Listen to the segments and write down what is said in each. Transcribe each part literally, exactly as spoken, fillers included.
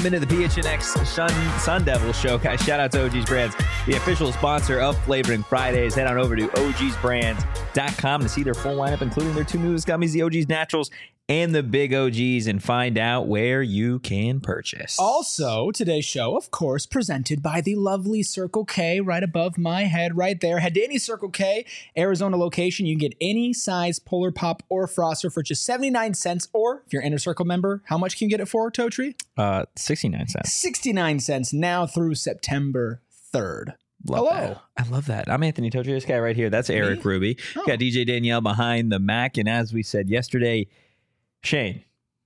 Welcome into the P H N X Sun, Sun Devil Show. Guys, shout out to O G's Brands, the official sponsor of Flavoring Fridays. Head on over to O Gs brands dot com to see their full lineup, including their two newest gummies, the O G's Naturals and the Big O Gs, and find out where you can purchase. Also, today's show, of course, presented by the lovely Circle K right above my head right there. Head to any Circle K Arizona location. You can get any size Polar Pop or Froster for just seventy-nine cents. Or if you're an Inner Circle member, how much can you get it for, Totri? Uh, sixty-nine cents. sixty-nine cents now through September third. Love Hello. that. I love that. I'm Anthony Totri. This guy right here, that's Eric Me? Ruby. Oh. Got D J Danielle behind the Mac. And as we said yesterday, Shane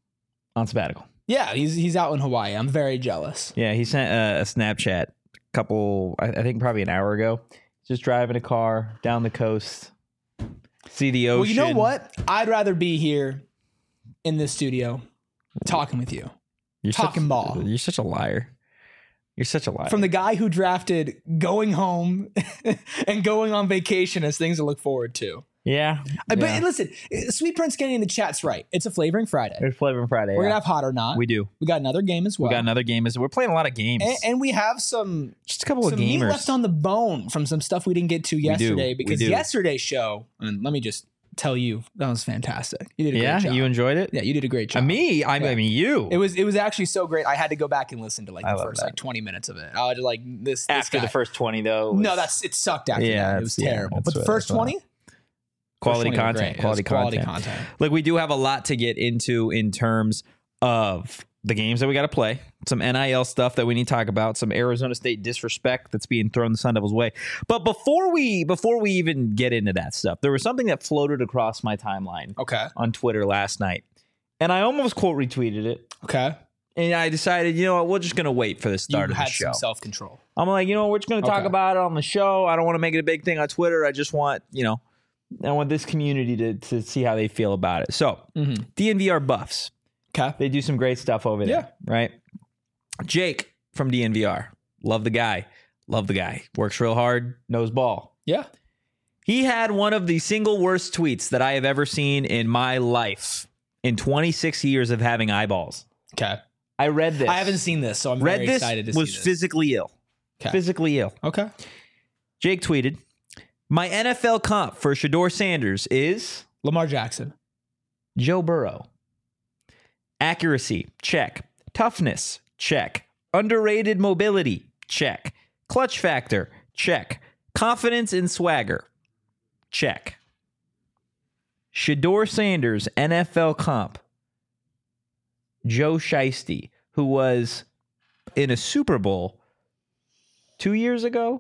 on sabbatical. Yeah, he's he's out in Hawaii. I'm very jealous. Yeah, he sent a, a Snapchat a couple, I, I think probably an hour ago. Just driving a car down the coast, see the ocean. Well, you know what? I'd rather be here in this studio talking with you. You're Talking such, ball. You're such a liar. You're such a liar. From the guy who drafted going home and going on vacation as things to look forward to. yeah. Uh, But yeah. listen, Sweet Prince Kenny in the chat's right. It's a Flavoring Friday. There's Flavoring Friday. We're yeah. going to have Hot or Not. We do. We got another game as well. We got another game. We're playing a lot of games. and, and we have some, Just a couple some of meat gamers. left on the bone from some stuff we didn't get to yesterday. We Because do. yesterday's show, and let me just tell you, that was fantastic. You did a yeah, great job. you enjoyed it? yeah, you did a great Uh, job. me? I, Yeah. I mean, you. It was it was actually so great. I had to go back and listen to like I the love first that. like twenty minutes of it. I was just like this, this After guy. the first twenty, though. was No, that's it sucked after Yeah, that. It was that's- yeah, terrible. that's but the what- first that's what- twenty, quality first twenty were content. great. It was Quality, quality content. content. Look, we do have a lot to get into in terms of the games that we got to play, some N I L stuff that we need to talk about, some Arizona State disrespect that's being thrown the Sun Devils' way. But before we before we even get into that stuff, there was something that floated across my timeline Okay. on Twitter last night, and I almost quote retweeted it. Okay. And I decided, you know what, we're just going to wait for the start You of the had show. some self control. I'm like, you know, we're just going to talk Okay. about it on the show. I don't want to make it a big thing on Twitter. I just want, you know, I want this community to, to see how they feel about it. So, Mm-hmm. D N V R Buffs, Okay. they do some great stuff over there, Yeah. right? Jake from D N V R, love the guy. Love the guy. Works real hard, knows ball. Yeah. He had one of the single worst tweets that I have ever seen in my life in twenty-six years of having eyeballs. Okay. I read this. I haven't seen this, so I'm read very this, excited to was see this. physically ill. Okay. Physically ill. Okay. Jake tweeted, my N F L comp for Shedeur Sanders is Lamar Jackson. Joe Burrow. Accuracy, check. Toughness, check. Underrated mobility, check. Clutch factor, check. Confidence and swagger, check. Shedeur Sanders, N F L comp. Joe Shiesty, who was in a Super Bowl two years ago.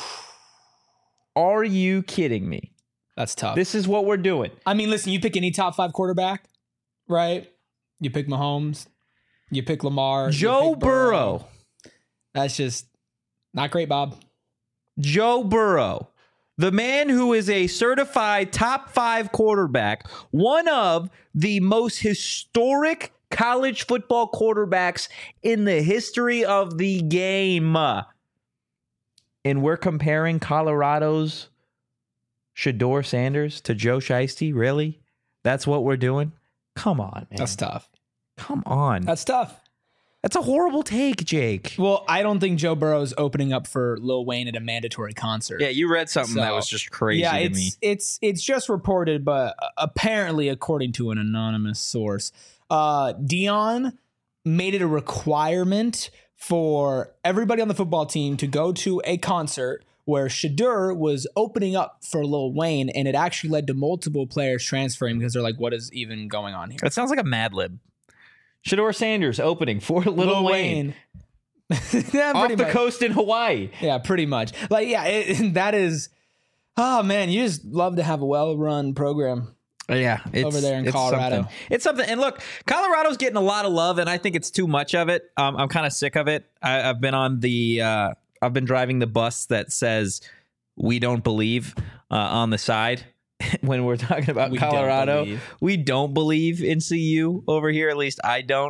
Are you kidding me? That's tough. This is what we're doing. I mean, listen, you pick any top five quarterback, right? You pick Mahomes. You pick Lamar. you Joe pick Burrow. That's just not great, Bob. Joe Burrow, the man who is a certified top five quarterback, one of the most historic college football quarterbacks in the history of the game. And we're comparing Colorado's Shedeur Sanders to Joe Shiesty? Really? That's what we're doing? Come on, man. That's tough. Come on. That's tough. That's a horrible take, Jake. Well, I don't think Joe Burrow's opening up for Lil Wayne at a mandatory concert. Yeah, you read something So, that was just crazy yeah, to it's me. it's it's just reported, but apparently, according to an anonymous source, uh, Dion made it a requirement for everybody on the football team to go to a concert where Shedeur was opening up for Lil Wayne, and it actually led to multiple players transferring because they're like, "What is even going on here?" That sounds like a Mad Lib. Shedeur Sanders opening for Lil, Wayne, yeah, off pretty the much. coast in Hawaii. Yeah, pretty much. Like, yeah, it, that is. Oh man, you just love to have a well-run program. Yeah, it's, Over there in it's Colorado. Something. It's something. And look, Colorado's getting a lot of love, and I think it's too much of it. Um, I'm kind of sick of it. I, I've been on the. Uh, I've been driving the bus that says "We don't believe" uh, on the side. When we're talking about We don't Colorado, believe. we don't believe in C U over here. At least I don't.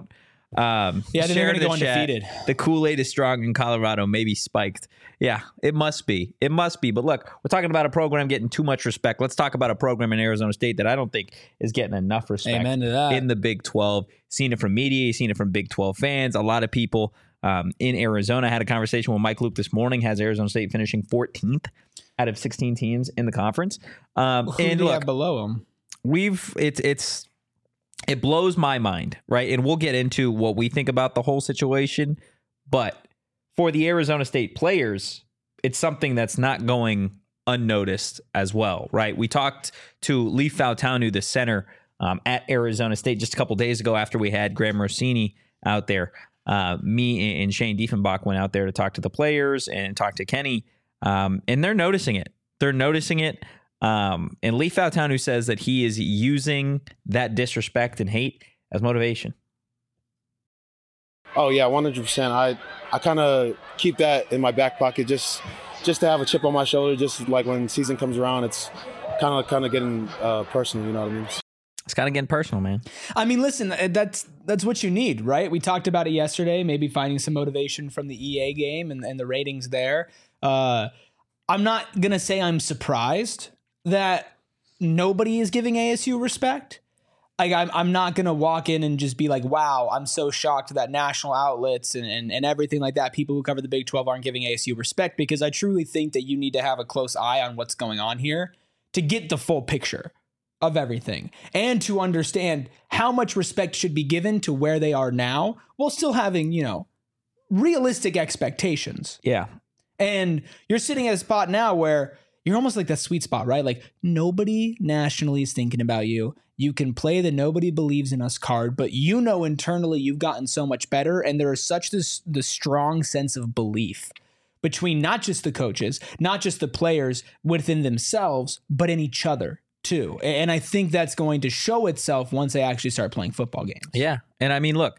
Um, Yeah, they're share going to the go chat. undefeated. The Kool-Aid is strong in Colorado, maybe spiked. Yeah, it must be. It must be. But look, we're talking about a program getting too much respect. Let's talk about a program in Arizona State that I don't think is getting enough respect. Amen to that. In the Big twelve. Seen it from media, seen it from Big twelve fans. A lot of people um, in Arizona. I had a conversation with Mike Luke this morning. Has Arizona State finishing fourteenth out of sixteen teams in the conference. Um, Who and do you look, have below them? we've it's it's it blows my mind, right? And we'll get into what we think about the whole situation, but for the Arizona State players, it's something that's not going unnoticed as well, right? We talked to Leif Fautanu, the center um, at Arizona State, just a couple days ago after we had Graham Rossini out there. Uh, me and Shane Diefenbach went out there to talk to the players and talk to Kenny, um, and they're noticing it. They're noticing it. Um, and Leif Fautanu says that he is using that disrespect and hate as motivation. Oh yeah, one hundred percent. I I kind of keep that in my back pocket just just to have a chip on my shoulder. Just like when season comes around, it's kind of kind of getting uh, personal. You know what I mean? It's kind of getting personal, man. I mean, listen, that's that's what you need, right? We talked about it yesterday, maybe finding some motivation from the E A game and, and the ratings there. Uh, I'm not going to say I'm surprised that nobody is giving A S U respect. Like, I'm, I'm not going to walk in and just be like, wow, I'm so shocked that national outlets and, and, and everything like that, people who cover the Big twelve aren't giving A S U respect, because I truly think that you need to have a close eye on what's going on here to get the full picture of everything and to understand how much respect should be given to where they are now while still having, you know, realistic expectations. Yeah. And you're sitting at a spot now where you're almost like that sweet spot, right? Like, nobody nationally is thinking about you. You can play the nobody believes in us card, but you know internally you've gotten so much better, and there is such this the strong sense of belief between not just the coaches, not just the players within themselves, but in each other too. And I think that's going to show itself once they actually start playing football games. Yeah. And I mean, look,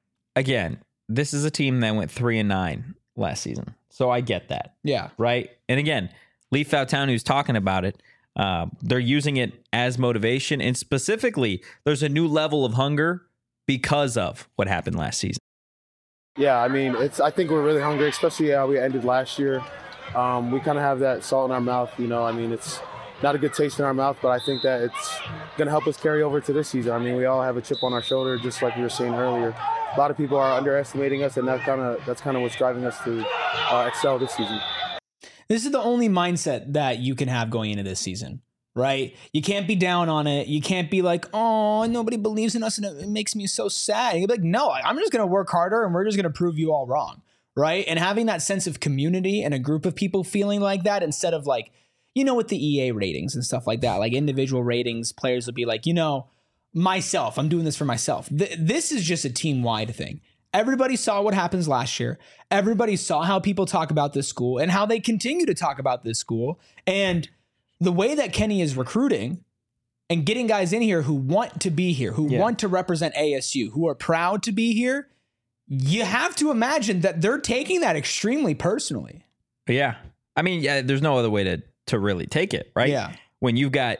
again, this is a team that went three and nine last season. So I get that. Yeah. Right. And again, Leif Fautanu's talking about it. Uh, they're using it as motivation. And specifically, there's a new level of hunger because of what happened last season. Yeah, I mean, it's. I think we're really hungry, especially how we ended last year. Um, we kind of have that salt in our mouth, you know. I mean, it's not a good taste in our mouth, but I think that it's going to help us carry over to this season. I mean, we all have a chip on our shoulder, just like we were saying earlier. A lot of people are underestimating us, and that kind of that's kind of what's driving us to uh, excel this season. This is the only mindset that you can have going into this season, right? You can't be down on it. You can't be like, oh, nobody believes in us and it makes me so sad. You'll be like, no, I'm just going to work harder and we're just going to prove you all wrong, right? And having that sense of community and a group of people feeling like that, instead of like, you know, with the E A ratings and stuff like that, like individual ratings, players will be like, you know, myself, I'm doing this for myself. Th- this is just a team-wide thing. Everybody saw what happens last year. Everybody saw how people talk about this school and how they continue to talk about this school. And the way that Kenny is recruiting and getting guys in here who want to be here, who Yeah. want to represent A S U, who are proud to be here, you have to imagine that they're taking that extremely personally. Yeah. I mean, yeah, there's no other way to, to really take it, right? Yeah. When you've got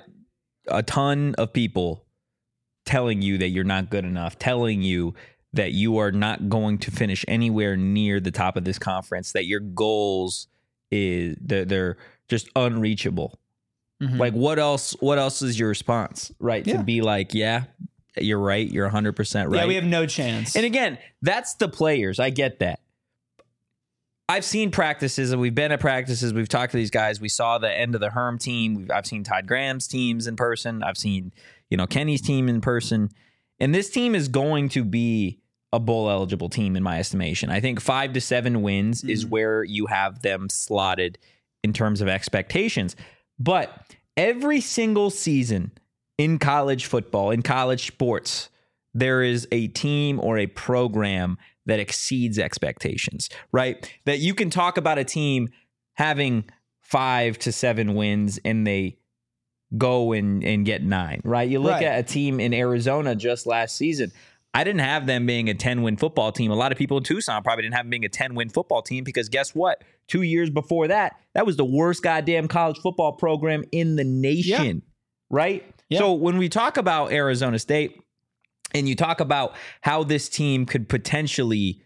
a ton of people telling you that you're not good enough, telling you that you are not going to finish anywhere near the top of this conference, that your goals is they're, they're just unreachable. Mm-hmm. Like, what else? What else is your response, right? Yeah. To be like, yeah, you're right. You're one hundred percent right. Yeah, we have no chance. And again, that's the players. I get that. I've seen practices, and we've been at practices. We've talked to these guys. We saw the end of the Herm team. We've, I've seen Todd Graham's teams in person. I've seen, you know, Kenny's team in person. And this team is going to be a bowl eligible team in my estimation. I think five to seven wins mm-hmm. is where you have them slotted in terms of expectations. But every single season in college football, in college sports, there is a team or a program that exceeds expectations, right? That you can talk about a team having five to seven wins and they go and, and get nine, right? You look Right. at a team in Arizona just last season. I didn't have them being a ten-win football team. A lot of people in Tucson probably didn't have them being a ten-win football team because guess what? Two years before that, that was the worst goddamn college football program in the nation, Yeah. right? Yeah. So when we talk about Arizona State, And you talk about how this team could potentially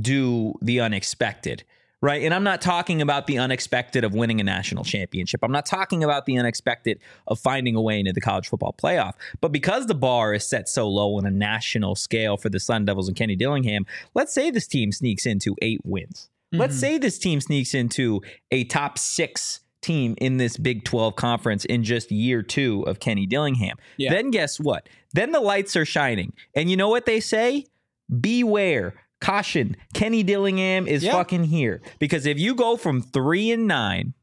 do the unexpected, right? And I'm not talking about the unexpected of winning a national championship. I'm not talking about the unexpected of finding a way into the college football playoff. But because the bar is set so low on a national scale for the Sun Devils and Kenny Dillingham, let's say this team sneaks into eight wins. Mm-hmm. Let's say this team sneaks into a top six team in this Big twelve conference in just year two of Kenny Dillingham. Yeah. Then guess what? Then the lights are shining. And you know what they say? Beware. Caution. Kenny Dillingham is yep. fucking here. Because if you go from three and nine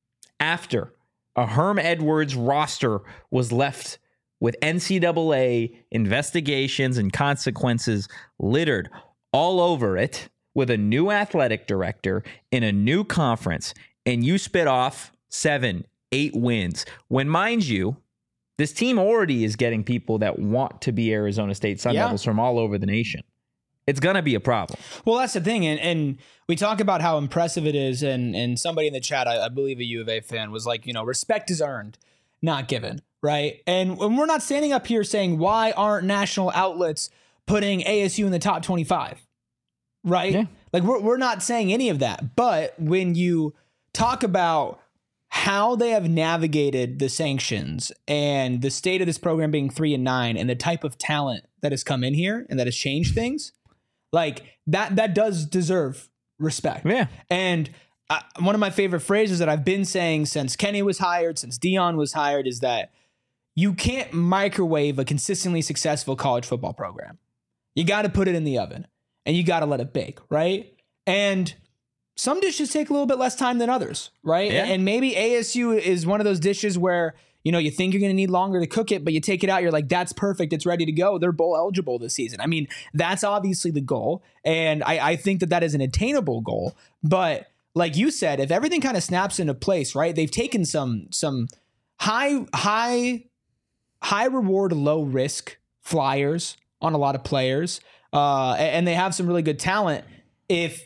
after a Herm Edwards roster was left with N C double A investigations and consequences littered all over it, with a new athletic director in a new conference, and you spit off seven, eight wins, when, mind you, this team already is getting people that want to be Arizona State Sun yeah. Devils from all over the nation. It's going to be a problem. Well, that's the thing. And, and we talk about how impressive it is. And, and somebody in the chat, I, I believe a U of A fan, was like, you know, respect is earned, not given. Right. And, and we're not standing up here saying, why aren't national outlets putting A S U in the top twenty-five? Right. Yeah. Like we're, we're not saying any of that. But when you talk about how they have navigated the sanctions and the state of this program being three and nine and the type of talent that has come in here and that has changed things, like that, that does deserve respect. Yeah. And I, one of my favorite phrases that I've been saying since Kenny was hired, since Dion was hired, is that you can't microwave a consistently successful college football program. You got to put it in the oven and you got to let it bake. Right. And some dishes take a little bit less time than others, right? Yeah. And maybe A S U is one of those dishes where, you know, you think you're going to need longer to cook it, but you take it out, you're like, that's perfect, it's ready to go. They're bowl eligible this season. I mean, that's obviously the goal. And I, I think that that is an attainable goal. But like you said, if everything kind of snaps into place, right? They've taken some some high, high, high reward, low risk flyers on a lot of players. Uh, and they have some really good talent. If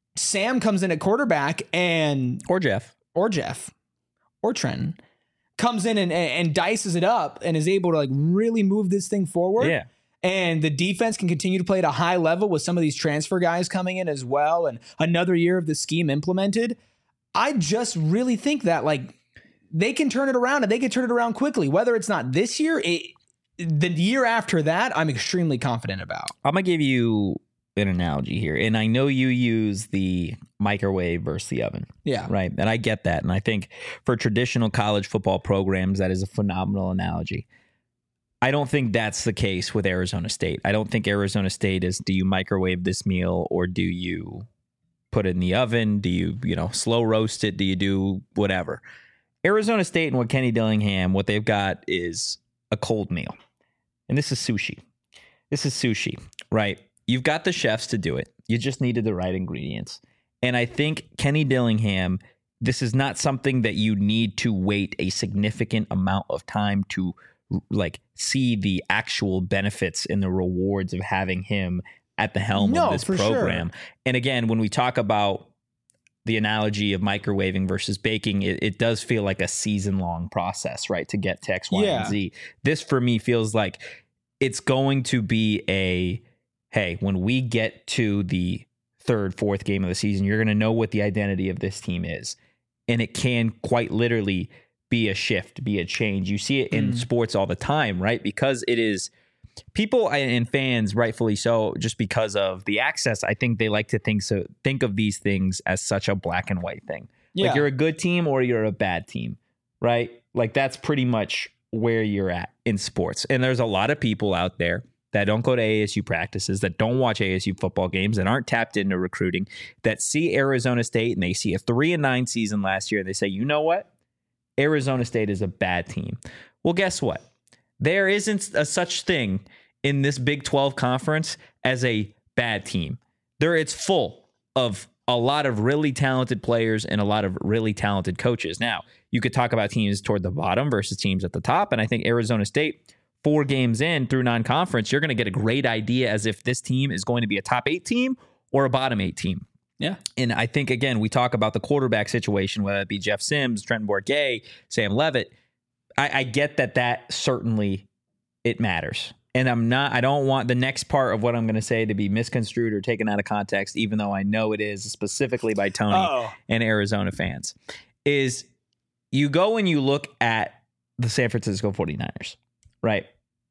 Sam comes in at quarterback and or Jeff or Jeff or Trenton comes in and, and dices it up and is able to like really move this thing forward. Yeah. And the defense can continue to play at a high level with some of these transfer guys coming in as well. And another year of the scheme implemented. I just really think that like they can turn it around and they can turn it around quickly, whether it's not this year, it, the year after that, I'm extremely confident about. I'm going to give you an analogy here, and I know you use the microwave versus the oven. Yeah. Right. And I get that. And I think for traditional college football programs, that is a phenomenal analogy. I don't think that's the case with Arizona State. I don't think Arizona State is, do you microwave this meal or do you put it in the oven? Do you, you know, slow roast it? Do you do whatever? Arizona State and what Kenny Dillingham, what they've got is a cold meal. And this is sushi. This is sushi, right? You've got the chefs to do it. You just needed the right ingredients. And I think Kenny Dillingham, this is not something that you need to wait a significant amount of time to like see the actual benefits and the rewards of having him at the helm no, of this for program. Sure. And again, when we talk about the analogy of microwaving versus baking, it, it does feel like a season-long process, right, to get to X, Y, yeah. and Z. This, for me, feels like it's going to be a, hey, when we get to the third, fourth game of the season, you're going to know what the identity of this team is. And it can quite literally be a shift, be a change. You see it in mm. sports all the time, right? Because it is people and fans, rightfully so, just because of the access. I think they like to think so. Think of these things as such a black and white thing. Yeah. Like you're a good team or you're a bad team, right? Like that's pretty much where you're at in sports. And there's a lot of people out there that don't go to A S U practices, that don't watch A S U football games, that aren't tapped into recruiting, that see Arizona State and they see a three and nine season last year and they say, you know what? Arizona State is a bad team. Well, guess what? There isn't a such thing in this Big twelve conference as a bad team. There, it's full of a lot of really talented players and a lot of really talented coaches. Now, you could talk about teams toward the bottom versus teams at the top, and I think Arizona State, four games in through non-conference, you're going to get a great idea as if this team is going to be a top eight team or a bottom eight team. Yeah. And I think, again, we talk about the quarterback situation, whether it be Jeff Sims, Trenton Bourguet, Sam Leavitt. I, I get that that certainly it matters. and I'm not, I don't want the next part of what I'm going to say to be misconstrued or taken out of context, even though I know it is specifically by Tony Uh-oh. and Arizona fans, is you go and you look at the San Francisco forty-niners, right?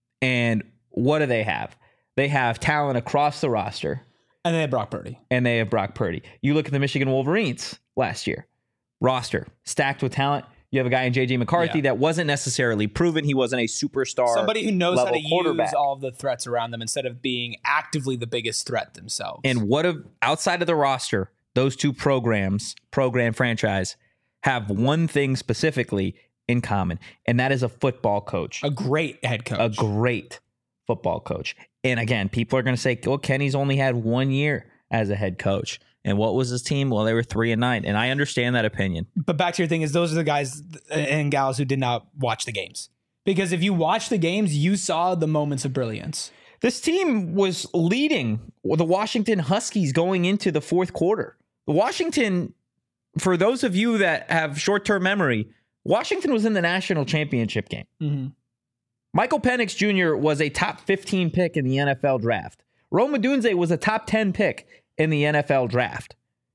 And what do they have? They have talent across the roster. And they have Brock Purdy. And they have Brock Purdy. You look at the Michigan Wolverines last year. Roster stacked with talent. You have a guy in J J McCarthy Yeah. that wasn't necessarily proven. He wasn't a superstar. Somebody who knows how level to quarterback. use all of the threats around them instead of being actively the biggest threat themselves. And what of outside of the roster, those two programs, program franchise, have one thing specifically in common, and that is a football coach. a great head coach. A great football coach. And again, people are going to say, well, Kenny's only had one year as a head coach. And what was his team? Well, they were three and nine. And I understand that opinion. But back to your thing is those are the guys and gals who did not watch the games. Because if you watch the games, you saw the moments of brilliance. This team was leading the Washington Huskies going into the fourth quarter. The Washington, for those of you that have short-term memory, Washington was in the national championship game. Mm-hmm. Michael Penix Junior was a top fifteen pick in the N F L draft. Rome Odunze was a top ten pick in the N F L draft.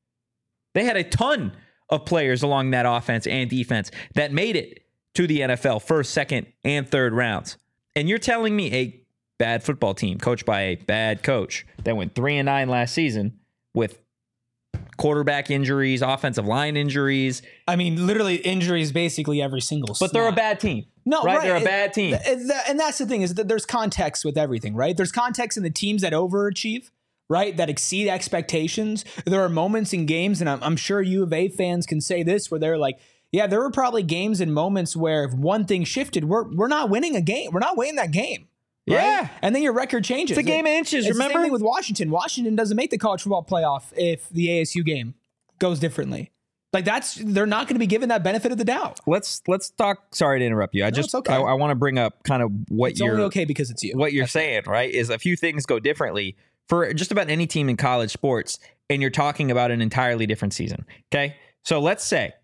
They had a ton of players along that offense and defense that made it to the N F L first, second, and third rounds. And you're telling me a bad football team coached by a bad coach that went three and nine last season with quarterback injuries, offensive line injuries. I mean, literally injuries basically every single But they're a snap. bad team. No, right? right. They're a And- bad team. And that- and that's the thing is that there's context with everything, right? There's context in the teams that overachieve, right? That exceed expectations. There are moments in games, and I'm, I'm sure U of A fans can say this, where they're like, yeah, there were probably games and moments where if one thing shifted, we're we're not winning a game. We're not winning that game. Right? Yeah. And then your record changes. It's a game of inches, It's the remember? same thing with Washington. Washington doesn't make the college football playoff if the A S U game goes differently. Like that's they're not going to be given that benefit of the doubt. Let's let's talk. Sorry to interrupt you. I just it's okay. I, I want to bring up kind of what It's you're only okay because it's you. what you're saying, right? Is a few things go differently for just about any team in college sports, and you're talking about an entirely different season. Okay, so let's say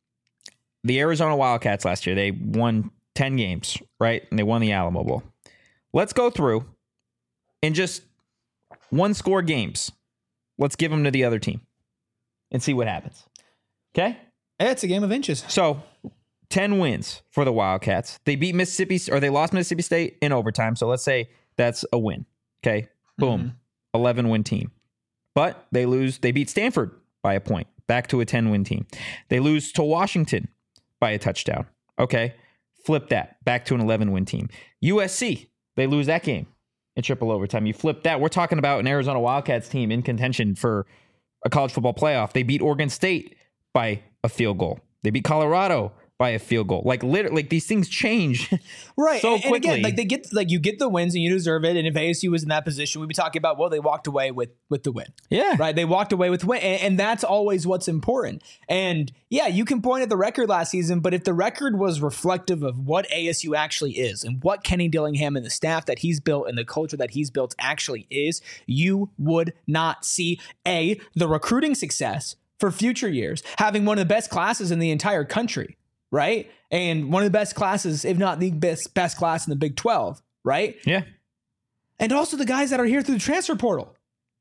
the Arizona Wildcats last year, they won ten games, right? And they won the Alamo Bowl. Let's go through and just one score games. Let's give them to the other team and see what happens. Okay? It's a game of inches. So ten wins for the Wildcats. They beat Mississippi, or they lost Mississippi State in overtime. So let's say that's a win. Okay. Boom. Mm-hmm. eleven win team. But they lose. They beat Stanford by a point. Back to a ten win team. They lose to Washington by a touchdown. Okay. Flip that. Back to an eleven win team. U S C. They lose that game in triple overtime. You flip that. We're talking about an Arizona Wildcats team in contention for a college football playoff. They beat Oregon State by a field goal. They beat Colorado by a field goal. Like literally, like these things change Right. so and, and quickly. again, like they get like you get the wins and you deserve it. And if A S U was in that position, we'd be talking about, well, they walked away with with the win. yeah. Right. They walked away with win. And, and that's always what's important. And yeah, you can point at the record last season, but if the record was reflective of what A S U actually is and what Kenny Dillingham and the staff that he's built and the culture that he's built actually is, you would not see A, the recruiting success for future years, having one of the best classes in the entire country. Right. And one of the best classes, if not the best best class in the Big twelve. Right. Yeah. And also the guys that are here through the transfer portal.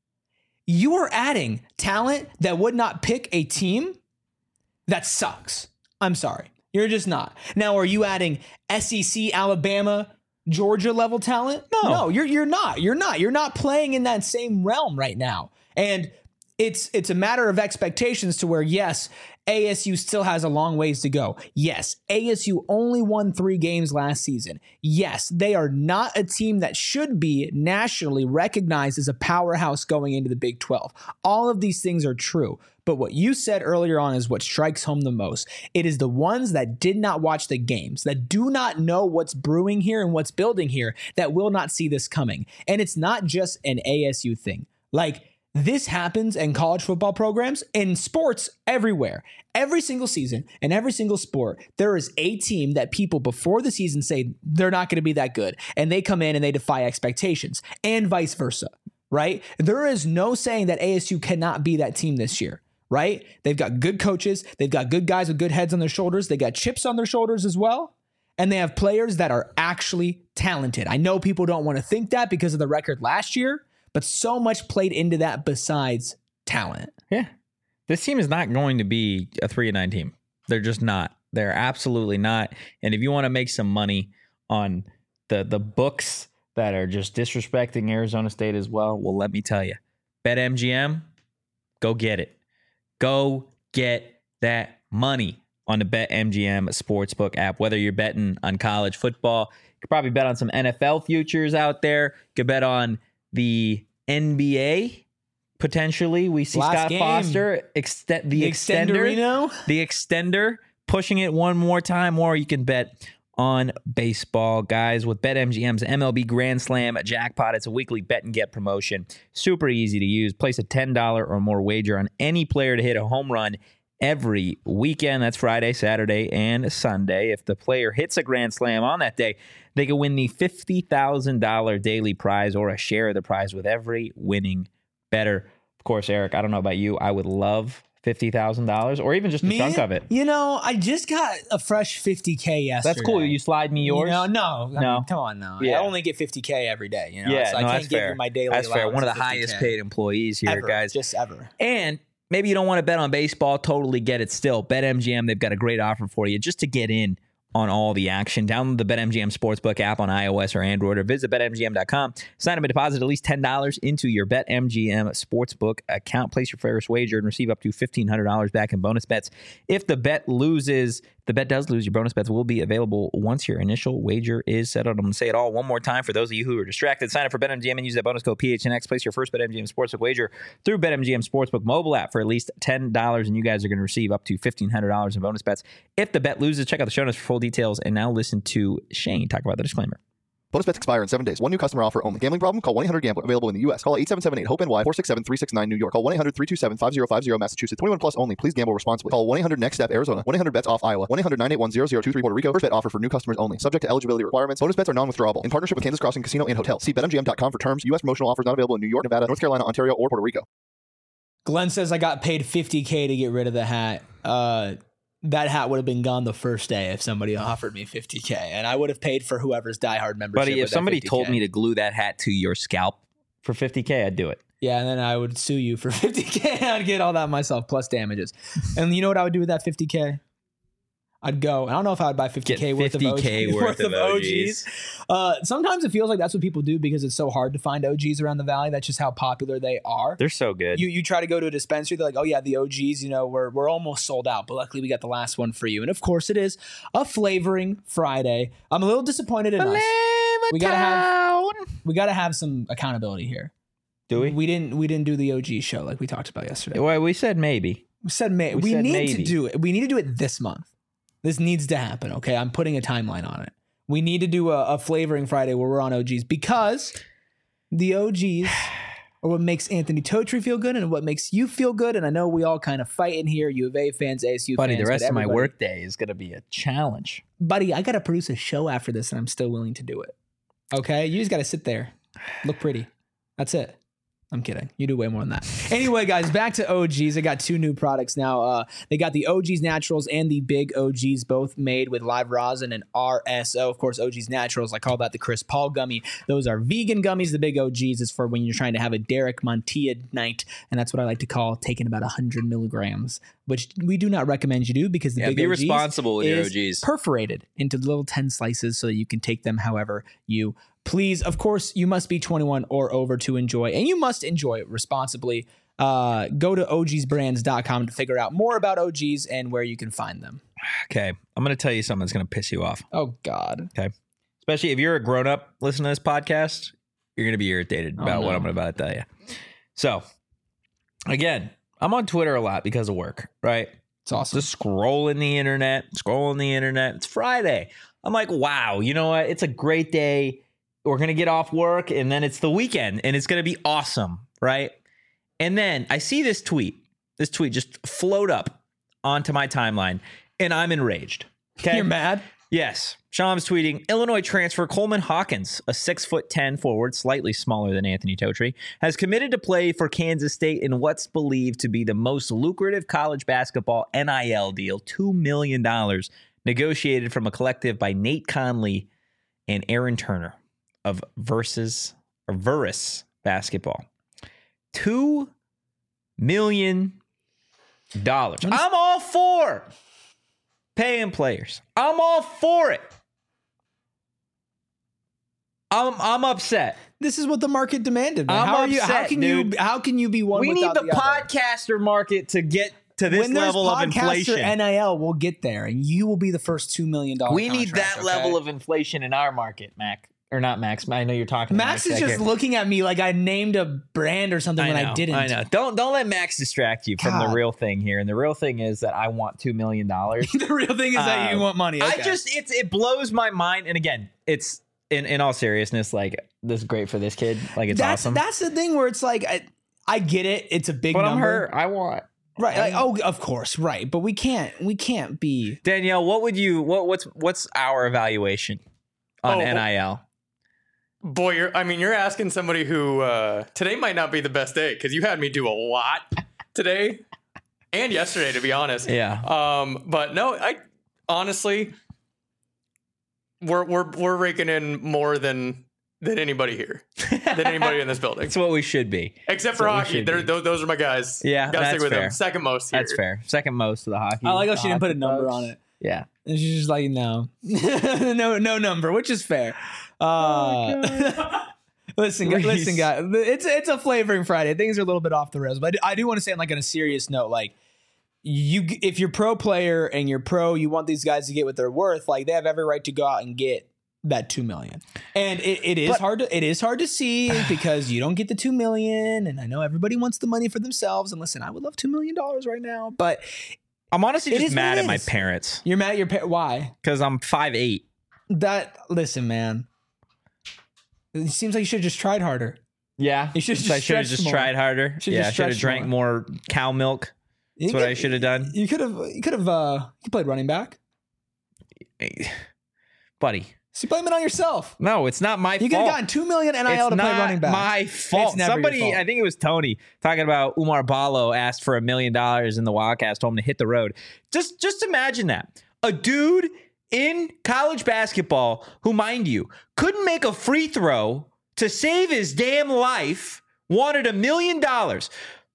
You are adding talent that would not pick a team that sucks. I'm sorry. You're just not. Now, are you adding S E C, Alabama, Georgia level talent? No. No, you're you're not. You're not. You're not playing in that same realm right now. And it's it's a matter of expectations to where, yes, A S U still has a long ways to go. Yes, A S U only won three games last season. Yes, they are not a team that should be nationally recognized as a powerhouse going into the Big twelve. All of these things are true. But what you said earlier on is what strikes home the most. It is the ones that did not watch the games, that do not know what's brewing here and what's building here, that will not see this coming. And it's not just an A S U thing. Like, this happens in college football programs, in sports everywhere. Every single season and every single sport, there is a team that people before the season say they're not going to be that good. And they come in and they defy expectations, and vice versa, right? There is no saying that A S U cannot be that team this year, right? They've got good coaches. They've got good guys with good heads on their shoulders. They got chips on their shoulders as well. And they have players that are actually talented. I know people don't want to think that because of the record last year, but so much played into that besides talent. Yeah. This team is not going to be a three and nine team. They're just not. They're absolutely not. And if you want to make some money on the the books that are just disrespecting Arizona State as well, well, let me tell you, BetMGM, go get it. Go get that money on the BetMGM Sportsbook app. Whether you're betting on college football, you could probably bet on some N F L futures out there. You could bet on the N B A. Potentially, we see Last Scott game. Foster extend the, The extender, Extenderino? the extender, pushing it one more time. Or you can bet on baseball, guys, with BetMGM's M L B Grand Slam jackpot. It's a weekly bet and get promotion. Super easy to use. Place a ten dollars or more wager on any player to hit a home run every weekend. That's Friday, Saturday, and Sunday. If the player hits a grand slam on that day, they can win the fifty thousand dollars daily prize or a share of the prize with every winning better. Of course, Eric, I don't know about you. I would love fifty thousand dollars or even just a Me? chunk of it. You know, I just got a fresh fifty K yesterday. That's cool. You slide me yours? You know, no, I No. mean, come on now. Yeah. I only get fifty K every day. You know, Yeah, so I no, can't that's give fair. you my daily. That's fair. One of the allowance highest fifty K. paid employees here, ever, guys. just ever. And maybe you don't want to bet on baseball. Totally get it still. BetMGM, they've got a great offer for you just to get in on all the action. Download the BetMGM Sportsbook app on iOS or Android or visit Bet M G M dot com. Sign up and deposit at least ten dollars into your BetMGM Sportsbook account. Place your first wager and receive up to fifteen hundred dollars back in bonus bets. If the bet loses, the bet does lose, your bonus bets will be available once your initial wager is settled. I'm going to say it all one more time for those of you who are distracted. Sign up for BetMGM and use that bonus code P H N X. Place your first BetMGM Sportsbook wager through BetMGM Sportsbook mobile app for at least ten dollars, and you guys are going to receive up to fifteen hundred dollars in bonus bets. If the bet loses, check out the show notes for full details. And now listen to Shane talk about the disclaimer. Bonus bets expire in seven days. One new customer offer only. Gambling problem? Call one eight hundred gambler. Available in the U S. Call eight seven seven eight hope N Y four six seven three six nine New York. Call one eight hundred three two seven five zero five zero Massachusetts. twenty-one plus only. Please gamble responsibly. Call one eight hundred next step Arizona. one eight hundred bets off Iowa. one eight hundred nine eight one zero zero two three Puerto Rico. First bet offer for new customers only. Subject to eligibility requirements. Bonus bets are non-withdrawable. In partnership with Kansas Crossing Casino and Hotel. See Bet M G M dot com for terms. U S promotional offers not available in New York, Nevada, North Carolina, Ontario, or Puerto Rico. Glenn says I got paid fifty K to get rid of the hat. Uh, that hat would have been gone the first day if somebody offered me fifty K, and I would have paid for whoever's diehard membership. Buddy, if with that somebody fifty K. told me to glue that hat to your scalp for fifty K, I'd do it. Yeah, and then I would sue you for fifty K. I'd get all that myself plus damages. And you know what I would do with that fifty K? I'd go. I don't know if I would buy fifty K Get worth of fifty K O Gs. worth of O Gs. Uh, sometimes it feels like that's what people do because it's so hard to find O Gs around the valley. That's just how popular they are. They're so good. You you try to go to a dispensary, they're like, oh yeah, the O Gs, you know, we're we're almost sold out, but luckily we got the last one for you. And of course, it is a flavoring Friday. I'm a little disappointed in us. We gotta have we gotta have some accountability here. Do we? We didn't we didn't do the O G show like we talked about yesterday. Well, we said maybe. We said may We we, said need maybe. to do it. We need to do it this month. This needs to happen. Okay, I'm putting a timeline on it. We need to do a, a flavoring Friday where we're on O Gs because the O Gs are what makes Anthony Totri feel good and what makes you feel good. And I know we all kind of fight in here. U of A fans, A S U Buddy, fans, the rest but of my everybody- work day is going to be a challenge. buddy, I got to produce a show after this, and I'm still willing to do it. Okay, you just got to sit there, look pretty. That's it. I'm kidding. You do way more than that. Anyway, guys, back to O Gs. I got two new products now. Uh, they got the O Gs Naturals and the Big O Gs, both made with live rosin and R S O. Of course, O Gs Naturals, I call that the Chris Paul gummy. Those are vegan gummies. The Big O Gs is for when you're trying to have a Derek Montilla night, and that's what I like to call taking about one hundred milligrams, which we do not recommend you do because the Yeah, Big be O Gs responsible with your is O Gs. perforated into little ten slices so that you can take them however you please. Of course, you must be twenty-one or over to enjoy, and you must enjoy it responsibly. Uh, go to O Gs brands dot com to figure out more about O Gs and where you can find them. Okay, I'm going to tell you something that's going to piss you off. Oh, God. Okay. Especially if you're a grown up listening to this podcast, you're going to be irritated Oh, about what no. I'm about to tell you. So, again, I'm on Twitter a lot because of work, right? It's awesome. Just scrolling the internet, scrolling the internet. It's Friday. I'm like, wow, you know what? It's a great day. We're going to get off work and then it's the weekend and it's going to be awesome, right? And then I see this tweet, this tweet just float up onto my timeline and I'm enraged. Okay. You're mad? Yes. Shams tweeting, Illinois transfer Coleman Hawkins, a six foot ten forward, slightly smaller than Anthony Totri, has committed to play for Kansas State in what's believed to be the most lucrative college basketball N I L deal, two million dollars negotiated from a collective by Nate Conley and Aaron Turner of Versus or Verus Basketball. Two million dollars. I'm all for paying players. I'm all for it. I'm I'm upset. This is what the market demanded. Man. I'm how are you? upset, How can dude. you? How can you be one? We need without the, the other? podcaster market to get to this when there's level of podcaster inflation. N I L, we'll get there, and you will be the first two million dollars. We need that level of inflation in our market, Mac. Or not Max. I know you're talking. Max to is just looking at me like I named a brand or something I when know, I didn't. I know. Don't don't let Max distract you from God. the real thing here. And the real thing is that I want two million dollars. The real thing is that you Um, want money. I Okay. just it's it blows my mind. And again, it's in in all seriousness, like this is great for this kid. Like it's that's awesome. that's the thing where it's like I, I get it. It's a big but I'm number. hurt. I want Right. Like, oh, of course. Right. But we can't. We can't be. Danielle. What would you what what's what's our evaluation on Oh, N I L? Boy, you're, I mean, you're asking somebody who uh, today might not be the best day because you had me do a lot today and yesterday, to be honest. Yeah. Um, but no, I honestly, we're we're we're raking in more than than anybody here, than anybody in this building, That's what we should be. except for what we hockey. should They're, be. those, those are my guys. Yeah, gotta that's stick with fair. them. Second most here. That's fair. Second most of the hockey. I like how she the didn't put a hockey number folks. on it. Yeah. And she's just like, no, no, no number, which is fair. Uh, listen, gu- Reese. listen, guys, it's it's a flavoring Friday. Things are a little bit off the rails, but I do, I do want to say, like on a serious note, like you, if you're pro player and you're pro, you want these guys to get what they're worth. Like they have every right to go out and get that two million. And it, it is But- hard to it is hard to see because you don't get the two million. And I know everybody wants the money for themselves. And listen, I would love two million dollars right now, but I'm honestly It just is mad what it at my is. parents you're mad at your pa- why? because I'm five eight. That listen, man. It seems like you should have just tried harder. Yeah. You should've So I just should have stretched just more. tried harder. Should've Yeah, I just should have stretched drank more cow milk. That's what I should have done. You could have. You could have. Uh, you played running back. Buddy. So you blame it on yourself. No, it's not my You could fault. have gotten two million N I L It's to play not running back. my fault. It's never your Somebody, fault. I think it was Tony, talking about Umar Balo asked for a million dollars in the Wildcats, told him to hit the road. Just, just imagine that. A dude in college basketball who, mind you, couldn't make a free throw to save his damn life, wanted a million dollars.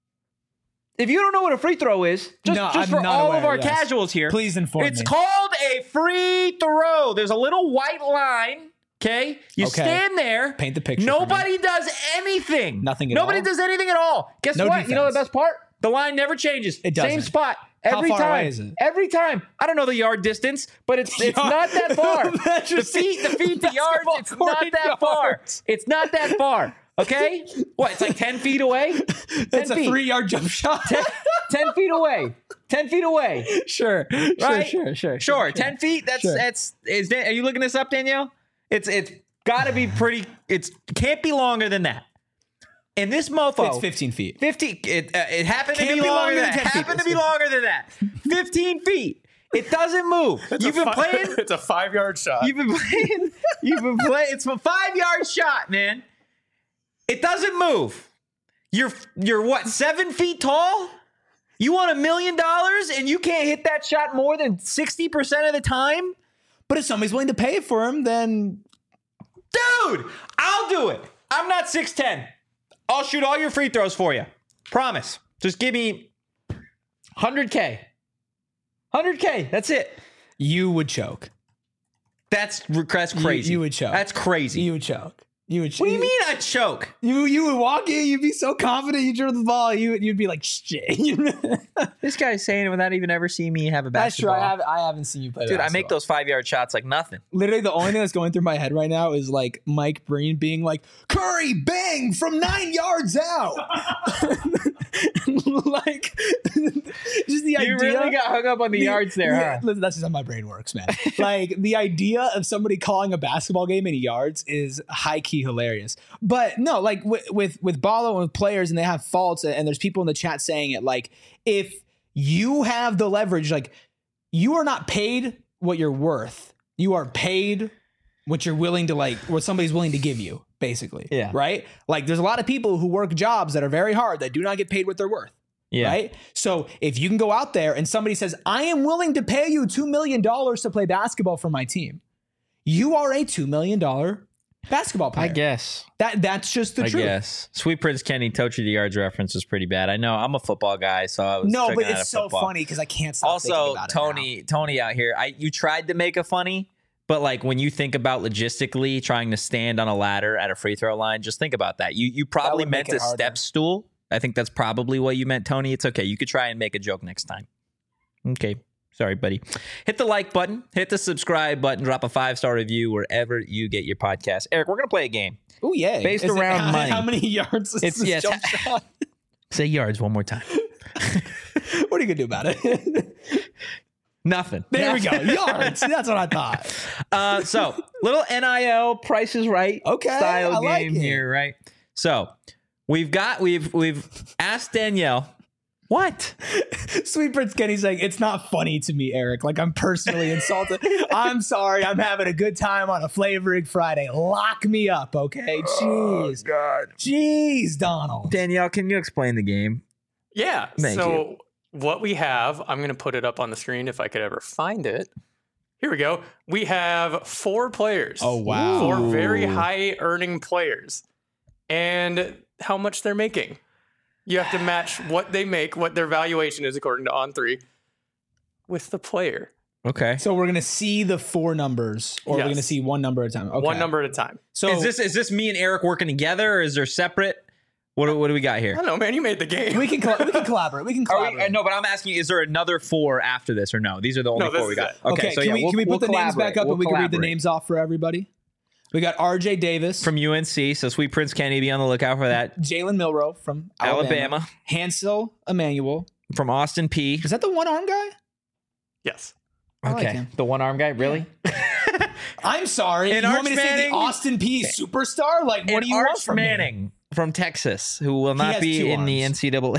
If you don't know what a free throw is, just, No, just I'm for not all aware, of our yes. casuals here, Please inform it's me. called a free throw. There's a little white line. Okay, you Okay. stand there. Paint the picture for me. Nobody does anything. Nothing at Nobody all? does anything at all. Guess No what? You know the defense. best part? The line never changes. It Same doesn't. spot How every far time. away is it? Every time. I don't know the yard distance, but it's it's not that far. the feet, the feet, the yards. Basketball It's not court that far. yards. It's not that far. Okay. What? It's like ten feet away. It's ten a feet. three-yard jump shot. ten, ten feet away. Ten feet away. sure, Right? sure, sure, sure, Sure, ten feet. That's Sure. that's. Is Dan- are you looking this up, Danielle? It's it's got to be pretty. It's can't be longer than that. And this mofo, It's fifteen feet. fifty. It uh, it happened to Can't be, be longer longer than than that. ten feet. Happened to be longer than that. Fifteen feet. It doesn't move. It's You've a been fi- playing. It's a five yard shot. You've been playing. You've been playing. It's a five yard shot, man. It doesn't move. You're you're what, seven feet tall? You want a million dollars and you can't hit that shot more than sixty percent of the time? But if somebody's willing to pay it for him, then Dude, I'll do it. I'm not six ten. I'll shoot all your free throws for you. Promise. Just give me one hundred K. one hundred K. That's it. you would choke. That's, that's crazy. you would choke. That's crazy. You would choke. You would. what do you mean I choke? You you would walk in. You'd be so confident. You dribble the ball. You you'd be like shit. This guy's saying it without even ever seeing me have a That's true. basketball. I have I haven't seen you play. Dude, I make basketball. those five yard shots like nothing. Literally, the only thing that's going through my head right now is like Mike Breen being like, Curry, bang from nine yards out. Like, just the You idea. really got hung up on the, the- yards there, yeah, huh? listen, that's just how my brain works, man. Like, the idea of somebody calling a basketball game in yards is high key hilarious. But no, like with with, with Balo and with players, and they have faults, and there's people in the chat saying it. Like, if you have the leverage, like, you are not paid what you're worth. You are paid what you're willing to, like, what somebody's willing to give you, basically. Yeah. Right? Like, there's a lot of people who work jobs that are very hard that do not get paid what they're worth. Yeah. Right? So if you can go out there and somebody says, I am willing to pay you two million dollars to play basketball for my team, you are a two million dollars basketball player. I guess. That that's just the I truth. guess. Sweet Prince Kenny, Tochi the Yards reference was pretty bad. I know. I'm a football guy, so I was No, checking but out it's of so football. funny because I can't stop thinking Also, about Tony, Tony out here. I you tried to make a funny, but like when you think about logistically trying to stand on a ladder at a free throw line, just think about that. You you probably would make meant it a harder. step stool. I think that's probably what you meant, Tony. It's okay. You could try and make a joke next time. Okay. Sorry, buddy. Hit the like button, hit the subscribe button, drop a five-star review wherever you get your podcast. Eric, we're going to play a game. now. Oh, yeah. Based Is it- around how, money. How many yards is It's- this yeah, jump it's- shot? Say yards one more time. What are you going to do about it? Nothing. There we go. Yards. That's what I thought. Uh, so, little N I L Price is Right Okay, style I like game it. here, right? So, we've got, we've, we've asked Danielle, what? Sweet Prince Kenny's saying, it's not funny to me, Eric. Like, I'm personally insulted. I'm sorry. I'm having a good time on a Flavoring Friday. Lock me up, okay? Jeez. Oh, God. Jeez, Donald. Danielle, can you explain the game? Yeah. Thank so you. what we have, I'm going to put it up on the screen if I could ever find it. Here we go. We have four players. Oh, wow. Four Ooh. very high earning players. And how much they're making. You have to match what they make, what their valuation is according to On three, with the player. Okay. So we're going to see the four numbers, or we're Yes. going to see one number at a time. Okay. One number at a time. So is this is this me and Eric working together, or is there separate? What do- what do we got I here? don't know, man. You made the game. we can coll- we can collaborate. We can Are we, collaborate. uh, no, but I'm asking you: is there another four after this, or no? These are the only No, this four we is got. it. Okay, so can yeah, we we'll, can we we'll put the names back collaborate. up We'll and we can read the collaborate. names off for everybody? We got R J Davis From U N C, so Sweet Prince Kenny, be on the lookout for that. Jalen Milroe from Alabama, Alabama. Hansel Emmanuel. From Austin P. Is that the one arm guy? Yes. I like Okay, him. the one arm guy, really? I'm sorry. And you Arch want me to say Manning? the Austin P superstar? Like, what and do you Arch want from me? Manning from Texas, who will not has be two in the N arms. C double A.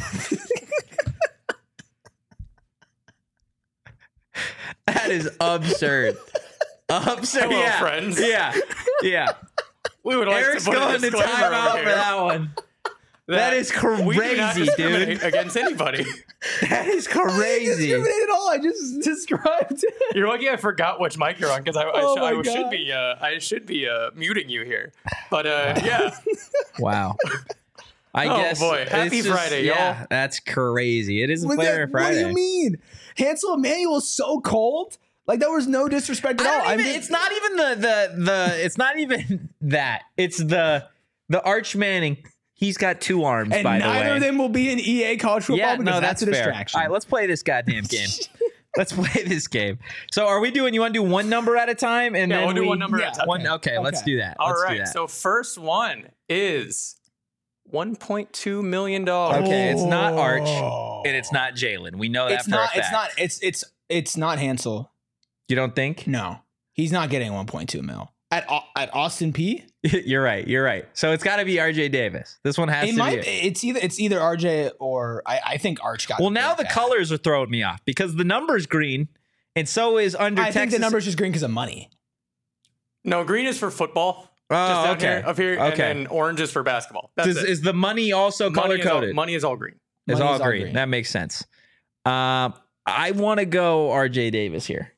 That is absurd. Absurd. Hello, yeah. friends. Yeah. Yeah. We would like Eric's to put a going to disclaimer time over out here for that one. That is we do not crazy, discriminate dude. against anybody. That is I didn't crazy. discriminate at all. I just described it. You're lucky I forgot which mic you're on because I, I, Oh sh- my I should God. be uh, I should be uh, muting you here. But uh, yeah, Wow. I Oh, guess. boy. Happy it's just- Friday, yeah, y'all. that's crazy. It is a What Flavor the- Friday. What do you mean? Hansel Emmanuel's so cold. Like, that was no disrespect at I all. don't I'm even, just- it's not even the the the. It's not even that. It's the the Arch Manning. He's got two arms. and by the neither way. of them will be in E A college football Yeah, because no, that's, that's, a fair. distraction. All right, let's play this goddamn game. Let's play this game. So, are we doing? You want to do one number at a time, and Yeah, then we'll do we, one number yeah, at a time. One, okay, let's Okay. do that. All let's right. Do that. So first one is one point two million dollars. Okay, it's not Arch, Oh. and it's not Jalen. We know that It's for not. a It's fact. not. It's it's it's not Hansel. You don't think? No, he's not getting one point two mil at Au- at Austin P. You're right. You're right. So it's got to be R J Davis. This one has It to might. be. It. It's either it's either R J or I, I think Arch got. Well, it now the bad. colors are throwing me off because the number's green, and so is under I Texas. think the number's just green because of money. No, green is for football. Oh, just down okay. here, up here, Okay. and then orange is for basketball. That's Does, it. is the money also money color is all, coded? money is all green. It's Money all is all green. green. That makes sense. Um, I want to go R J Davis here.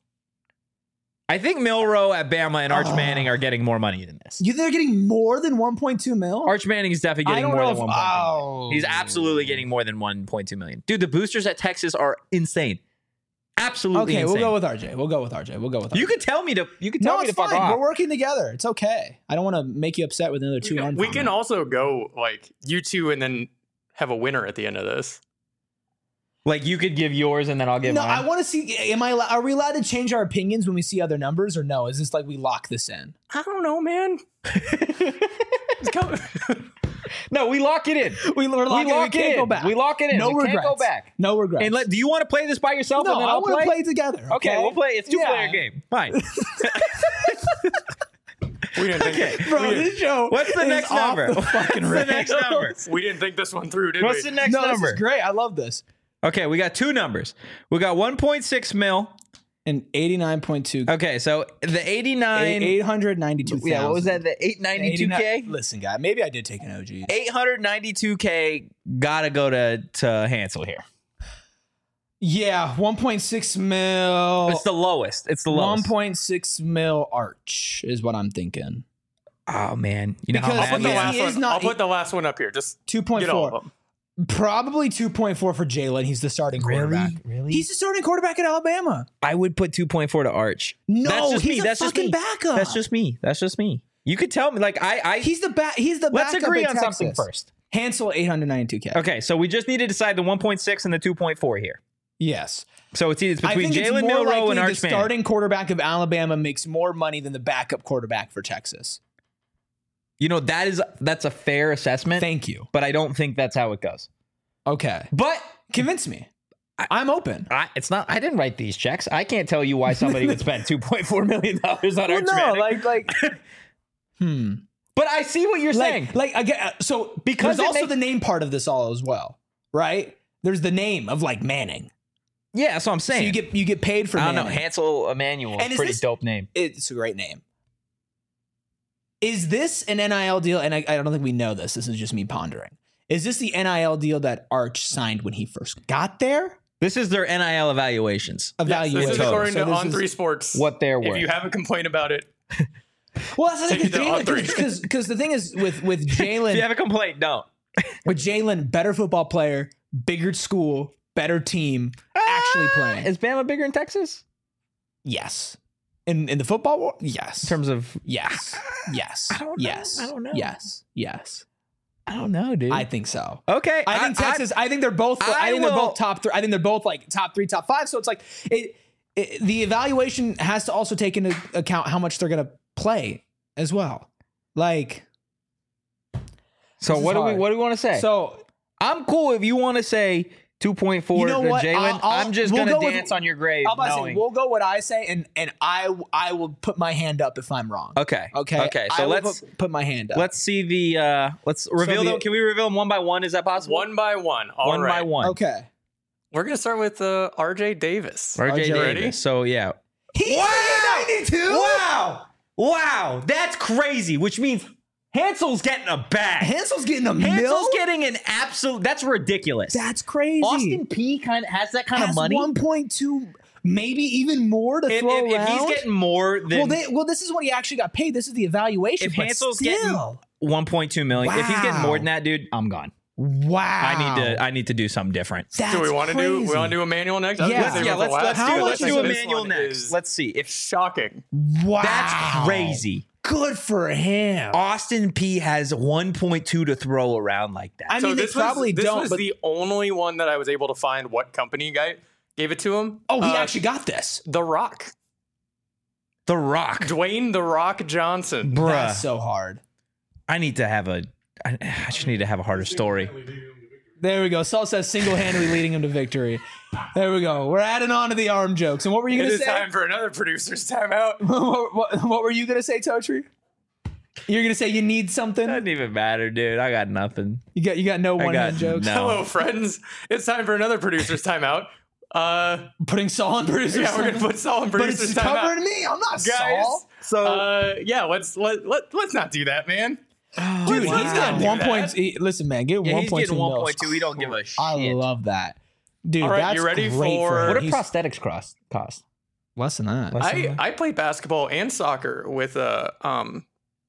I think Milroe at Bama and Arch Oh. Manning are getting more money than this. You think they're getting more than one point two mil? Arch Manning is definitely I getting don't more know than if- one point two million. oh. He's absolutely getting more than one point two million. Dude, the boosters at Texas are insane. Absolutely Okay, insane. we'll go with R J. We'll go with R J. We'll go with R J. You could tell me to. You could tell no, me it's to fuck fine. off. We're working together. It's okay. I don't want to make you upset with another two arm. We can comment. also go like you two and then have a winner at the end of this. Like you could give yours and then I'll give No, mine. I want to see. Am I? Are we allowed to change our opinions when we see other numbers, or no? Is this like we lock this in? I don't know, man. It's coming- no, we lock it in. We, we're locking, we lock we it can't in. go back. We lock it in. No we regrets. can't go back. No regrets. And let, do you want to play this by yourself no, and then I I'll want play? to play together. Okay, we'll play. It's two Yeah. player game. Fine. we didn't think. Okay. Bro, we, didn't, this show. What's the is next off number? The fucking What's the next number? we didn't think this one through, did What's we? the next no, number? this is great. I love this. Okay, we got two numbers. We got one point six mil. And eighty-nine point two. Okay, so the eighty-nine. eight hundred ninety-two thousand. yeah, what was that? The eight ninety-two K? Listen, guy, maybe I did take an O G. eight hundred ninety-two K gotta go to, to Hansel here. Yeah, one point six mil. It's the lowest. It's the one lowest. point six mil Arch is what I'm thinking. Oh man, you know Because how I'll put mad the he last is? He is one. not- I'll put the last one up here. Just two point get all of four. them. Probably two point four for Jalen. He's the starting quarterback. Really? He's the starting quarterback at Alabama. I would put two point four to Arch. No, That's just he's me. a That's just fucking me. backup. That's just me. That's just me. You could tell me, like I, I. He's the back. He's the let's backup agree at on Texas. something first. Hansel eight hundred ninety-two K. Okay, so we just need to decide the one point six and the two point four here. Yes. So it's, it's I between think it's Jalen more Milroe likely and the Arch Manning. starting quarterback of Alabama makes more money than the backup quarterback for Texas. You know that is that's a fair assessment. Thank you. But I don't think that's how it goes. Okay. But Convince me. I'm open. I, it's not. I didn't write these checks. I can't tell you why somebody would spend two point four million dollars on Well, Arch no, Manning. like, like, hmm. But I see what you're saying. Like, like again, so Because there's it also make- the name part of this all as well, right? There's the name of like Manning. Yeah, that's what I'm saying. So you get you get paid for I don't know. Manning. Hansel Emmanuel. And is Pretty this- dope name. It's a great name. Is this an N I L deal? And I, I don't think we know this. This is just me pondering. Is this the N I L deal that Arch signed when he first got there? This is their N I L evaluations. Evaluation. This is according So to this On is- Three Sports. What they're worth. If you have a complaint about it, Well, that's the Take it to thing. on three. Because because the thing is with with If you Jalen have a complaint, don't. with Jalen, better football player, bigger school, better team, actually playing. Is Bama bigger in Texas? Yes. In in the football world, yes. In terms of, yes. Yes. I don't know. Yes. I don't know. Yes. Yes. I don't know, dude. I think so. okay. I think Texas. I, think they're both. I, I think they're will- both top three. I think they're both like top three, top five. So it's like it, it. The evaluation has to also take into account how much they're going to play as well. Like, So this what is do we hard. what do we want to say? so I'm cool if you want to say two point four You know to what? Jalen. I'll- I'll- I'm just we'll gonna go with- dance on your grave. I'm about to say knowing- we'll go what I say, and and I I will put my hand up if I'm wrong. okay. Okay. Okay. I So will let's put, put my hand up. let's see the uh let's reveal the- them. Can we reveal them one by one? Is that possible? one by one. All one right. by one. Okay. We're gonna start with uh, R J Davis. R J R J Davis. ready? So yeah. He's ninety-two. Wow. Wow. That's crazy. Which means Hansel's getting a bag. Hansel's getting a Hansel's mil. getting an absolute. That's ridiculous. That's crazy. Austin P kind of has that kind has of money. one point two, maybe even more to if, throw if, if around. he's getting more than well, they, well, this is what he actually got paid. This is the evaluation. if but Hansel's still. getting one point two million, if he's getting more than that, dude, I'm gone. wow, I need to. I need to do something different. That's do we want to do? We crazy. want to do Emmanuel next? I was Yeah. gonna say yeah, with let's the let's last do two, let's I do think this Emmanuel one next. is Let's see if shocking. Wow, that's crazy. Good for him. Austin P has one point two to throw around like that. I So mean, they this probably was, this don't. was but, the only one that I was able to find what company guy gave it to him. oh, he Uh, actually got this. The Rock, The Rock, Dwayne The Rock Johnson. bruh. That's so hard. I need to have a. I, I just need to have a harder story. There we go. Saul says single-handedly leading him to victory. There we go. We're adding on to the arm jokes. And what were you It going to is say? time for another producer's timeout. what, what, what were you going to say, Totri? You're going to say you need something? Doesn't even matter, dude. I got nothing. You got you got no I one-hand got jokes? no. Hello, friends. It's time for another producer's timeout. Uh, Putting Saul on producer's yeah, we're gonna timeout? put Saul in But producer's it's timeout. covering me. I'm not Guys, Saul. So uh, yeah, let's let let let's not do that, man. Dude, Let's he's not got do one that. point. he- Listen, man, get yeah, one he's point two. getting one point two. He don't give a shit. I love that, dude. All right, that's you ready great for- him. What do He's- prosthetics cost? Cost less than that? Less than I that? I played basketball and soccer with a um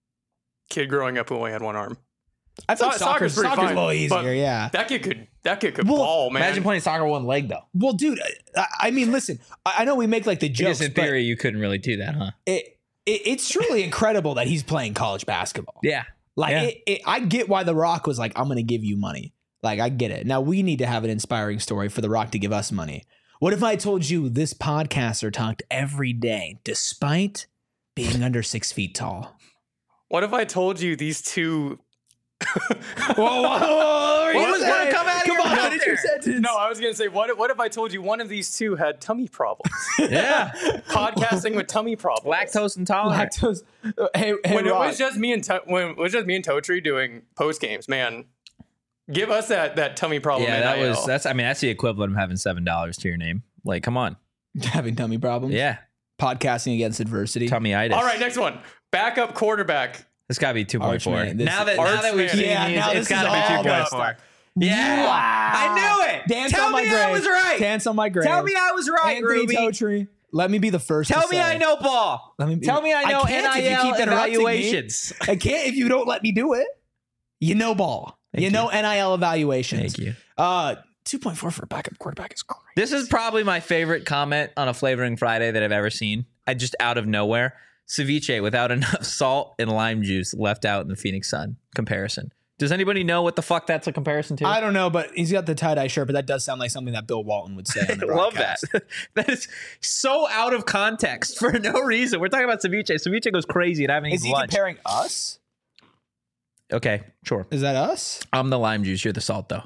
kid growing up who only had one arm. I thought So- soccer's, soccer's pretty soccer's a fine, little but- easier. Yeah. That kid could that kid could Well, ball, man. Imagine playing soccer with one leg though. Well, dude, I, I mean, listen. I, I know we make like the I jokes, guess in but theory you couldn't really do that, huh? it, it it's truly incredible that he's playing college basketball. Yeah. Like, Yeah. it, it, I get why The Rock was like, I'm going to give you money. Like, I get it. Now, we need to have an inspiring story for The Rock to give us money. What if I told you this podcaster talked every day despite being under six feet tall? What if I told you these two? Whoa, whoa, whoa, What was gonna come out of Come your on, mouth finish your there? sentence. No, I was gonna say what? if- What if I told you one of these two had tummy problems? Yeah. Podcasting with tummy problems. Lactose intolerant. Lactose. Uh, Hey, hey, When it Rock. was just me and to- when it was just me and Totri doing post games, man. Give us that that tummy problem. Yeah, that N I L. was that's. I mean, that's the equivalent of having seven dollars to your name. Like, come on. having tummy problems. Yeah. Podcasting against adversity. Tummyitis. All right, next one. Backup quarterback. It's got to be two point four. Archman, this now that is- now that we've Archman. seen Yeah, these, now it's this got is to be all two point about four. Yeah. Wow. I knew it. Dance Tell on my me grave. I was right. Dance on my grave. Tell me I was right, Anthony Ruby. Totri. Let me be the first. Tell to me say. I know ball. Let me be, Tell me I know can't if you N I L keep interrupting me. evaluations. I can't if you don't let me do it. You know ball. Thank you know N I L evaluations. Thank you. Uh, two point four for a backup quarterback is great. This is probably my favorite comment on a Flavoring Friday that I've ever seen. I just out of nowhere. Ceviche without enough salt and lime juice left out in the Phoenix Sun comparison. Does anybody know what the fuck that's a comparison to? I don't know, but he's got the tie-dye shirt, but that does sound like something that Bill Walton would say on the I love that. broadcast. That is so out of context for no reason. We're talking about ceviche. Ceviche goes crazy and I haven't Is eaten he lunch. comparing us? Okay, sure. Is that us? I'm the lime juice. You're the salt, though.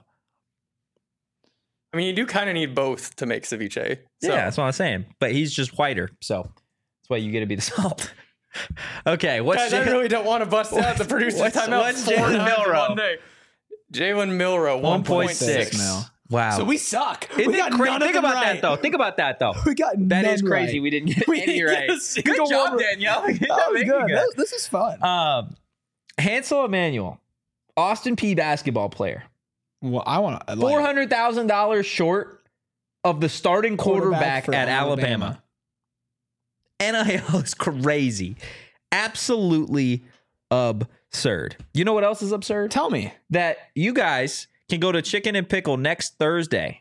I mean, you do kind of need both to make ceviche. So. Yeah, that's what I'm saying. But he's just whiter, so that's why you get to be the salt. Okay, what's Guys, I Jay- really don't want to bust out the producer's what's- timeout. what's four Jalen times in Milrow? one day. Jalen Milrow, one point one point six six. mil. Wow. So we suck. Isn't we it got crazy? none of Think them about right. that, though. Think about that, though. We got That none is crazy. right. We didn't get We any didn't get right. a Good single job, one. Danielle. Good That job was making good. it. That- This is fun. Um, Hansel Emmanuel, Austin P basketball player, well, I want to. four hundred thousand dollars short of the starting quarterback, for at Alabama. N I L is crazy. Absolutely absurd. You know what else is absurd? Tell me. That you guys can go to Chicken and Pickle next Thursday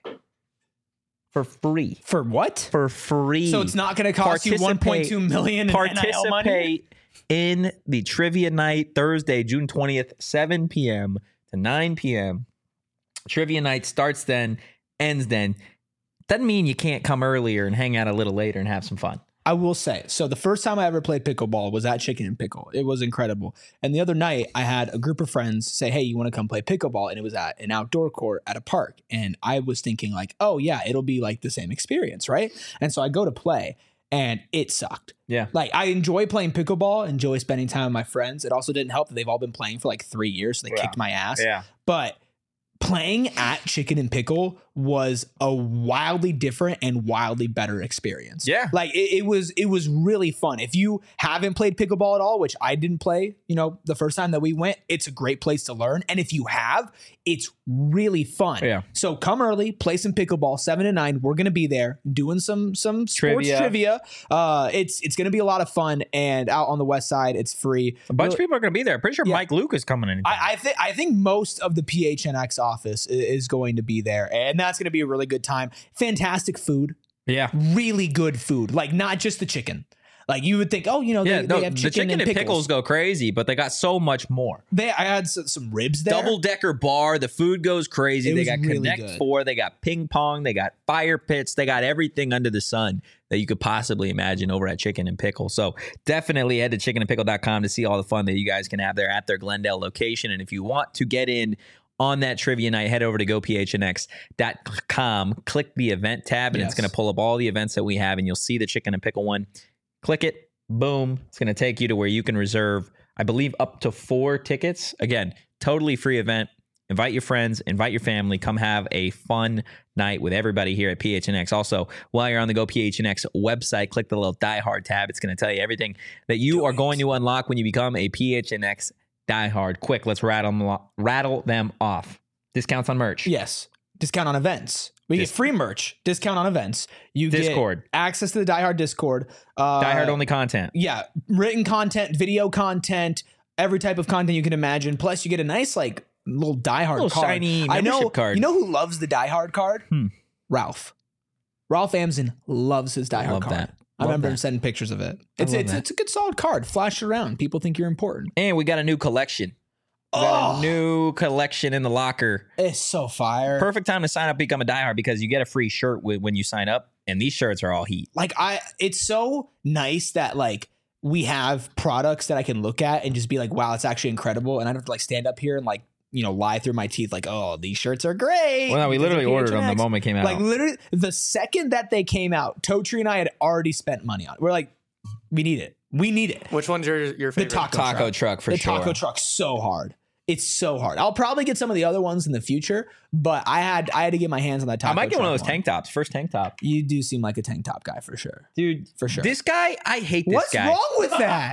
for free. For what? For free. So it's not going to cost you one point two million dollars in N I L money? Participate in the trivia night Thursday, June twentieth, seven p.m. to nine p.m. Trivia night starts then, ends then. Doesn't mean you can't come earlier and hang out a little later and have some fun. I will say, so the first time I ever played pickleball was at Chicken and Pickle. It was incredible. And the other night, I had a group of friends say, hey, you want to come play pickleball? And it was at an outdoor court at a park. And I was thinking like, oh yeah, it'll be like the same experience, right? And so I go to play and it sucked. Yeah. Like I enjoy playing pickleball, enjoy spending time with my friends. It also didn't help that they've all been playing for like three years. So they Yeah. kicked my ass. Yeah. But playing at Chicken and Pickle was a wildly different and wildly better experience. Yeah. Like it, it was, it was really fun. If you haven't played pickleball at all, which I didn't play, you know, the first time that we went, it's a great place to learn. And if you have, it's really fun. Yeah. So come early, play some pickleball, seven to nine. We're going to be there doing some, some sports Trivia. trivia. Uh, it's, it's going to be a lot of fun, and out on the West Side, it's free. A bunch Really- of people are going to be there. Pretty sure Yeah. Mike Luke is coming in. I, I think I think most of the P H N X office i- is going to be there, and that's going to be a really good time. Fantastic food, yeah. really good food. Like not just the chicken. Like you would think, oh, you know, Yeah, they, no, they have the chicken, chicken and pickles. go crazy, but they got so much more. They, I had some, some ribs there. Double decker bar. The food goes crazy. It They was got really Connect good. Four. They got ping pong. They got fire pits. They got everything under the sun that you could possibly imagine over at Chicken and Pickle. So definitely head to chicken and pickle dot com to see all the fun that you guys can have there at their Glendale location. And if you want to get in on that trivia night, head over to go p h n x dot com, click the event tab, and it's Yes. going to pull up all the events that we have, and you'll see the Chicken and Pickle one. Click it. Boom. It's going to take you to where you can reserve, I believe, up to four tickets. Again, totally free event. Invite your friends, invite your family, come have a fun night with everybody here at P H N X. Also, while you're on the Go P H N X website, click the little Die Hard tab. It's going to tell you everything that you Do are it. going to unlock when you become a P H N X Die Hard. Quick, let's rattle them, lo- rattle them off. Discounts on merch. Yes, discount on events. We Dis- get free merch, discount on events. You Discord. get access to the Die Hard Discord. Uh, Die Hard only content. Yeah, written content, video content, every type of content you can imagine. Plus, you get a nice like little Die Hard Little card. shiny I know. membership card. You know who loves the Die Hard card? Hmm. Ralph. Ralph Amson loves his Die Hard Love card. that. I Love remember that. him sending pictures of it. It's love it's that. it's a good solid card. Flash it around. People think you're important. And we got a new collection. We got Oh. a new collection in the locker. It's so fire. Perfect time to sign up, become a diehard, because you get a free shirt with, when you sign up, and these shirts are all heat. Like I, it's so nice that like we have products that I can look at and just be like, wow, it's actually incredible, and I don't have to like stand up here and like you know lie through my teeth like, oh, these shirts are great. Well, no, we because of literally ordered them the P H N X. moment it came out. Like literally, the second that they came out, Totri and I had already spent money on it. We're like, we need it. We need it. Which one's your your The favorite? taco, Taco truck. truck for the sure. taco truck's so hard. It's so hard. I'll probably get some of the other ones in the future, but I had I had to get my hands on that taco. I might get one of truck those tank tops. First tank top. You do seem like a tank top guy for sure. Dude, For sure. This guy, I hate this What's guy. wrong with that?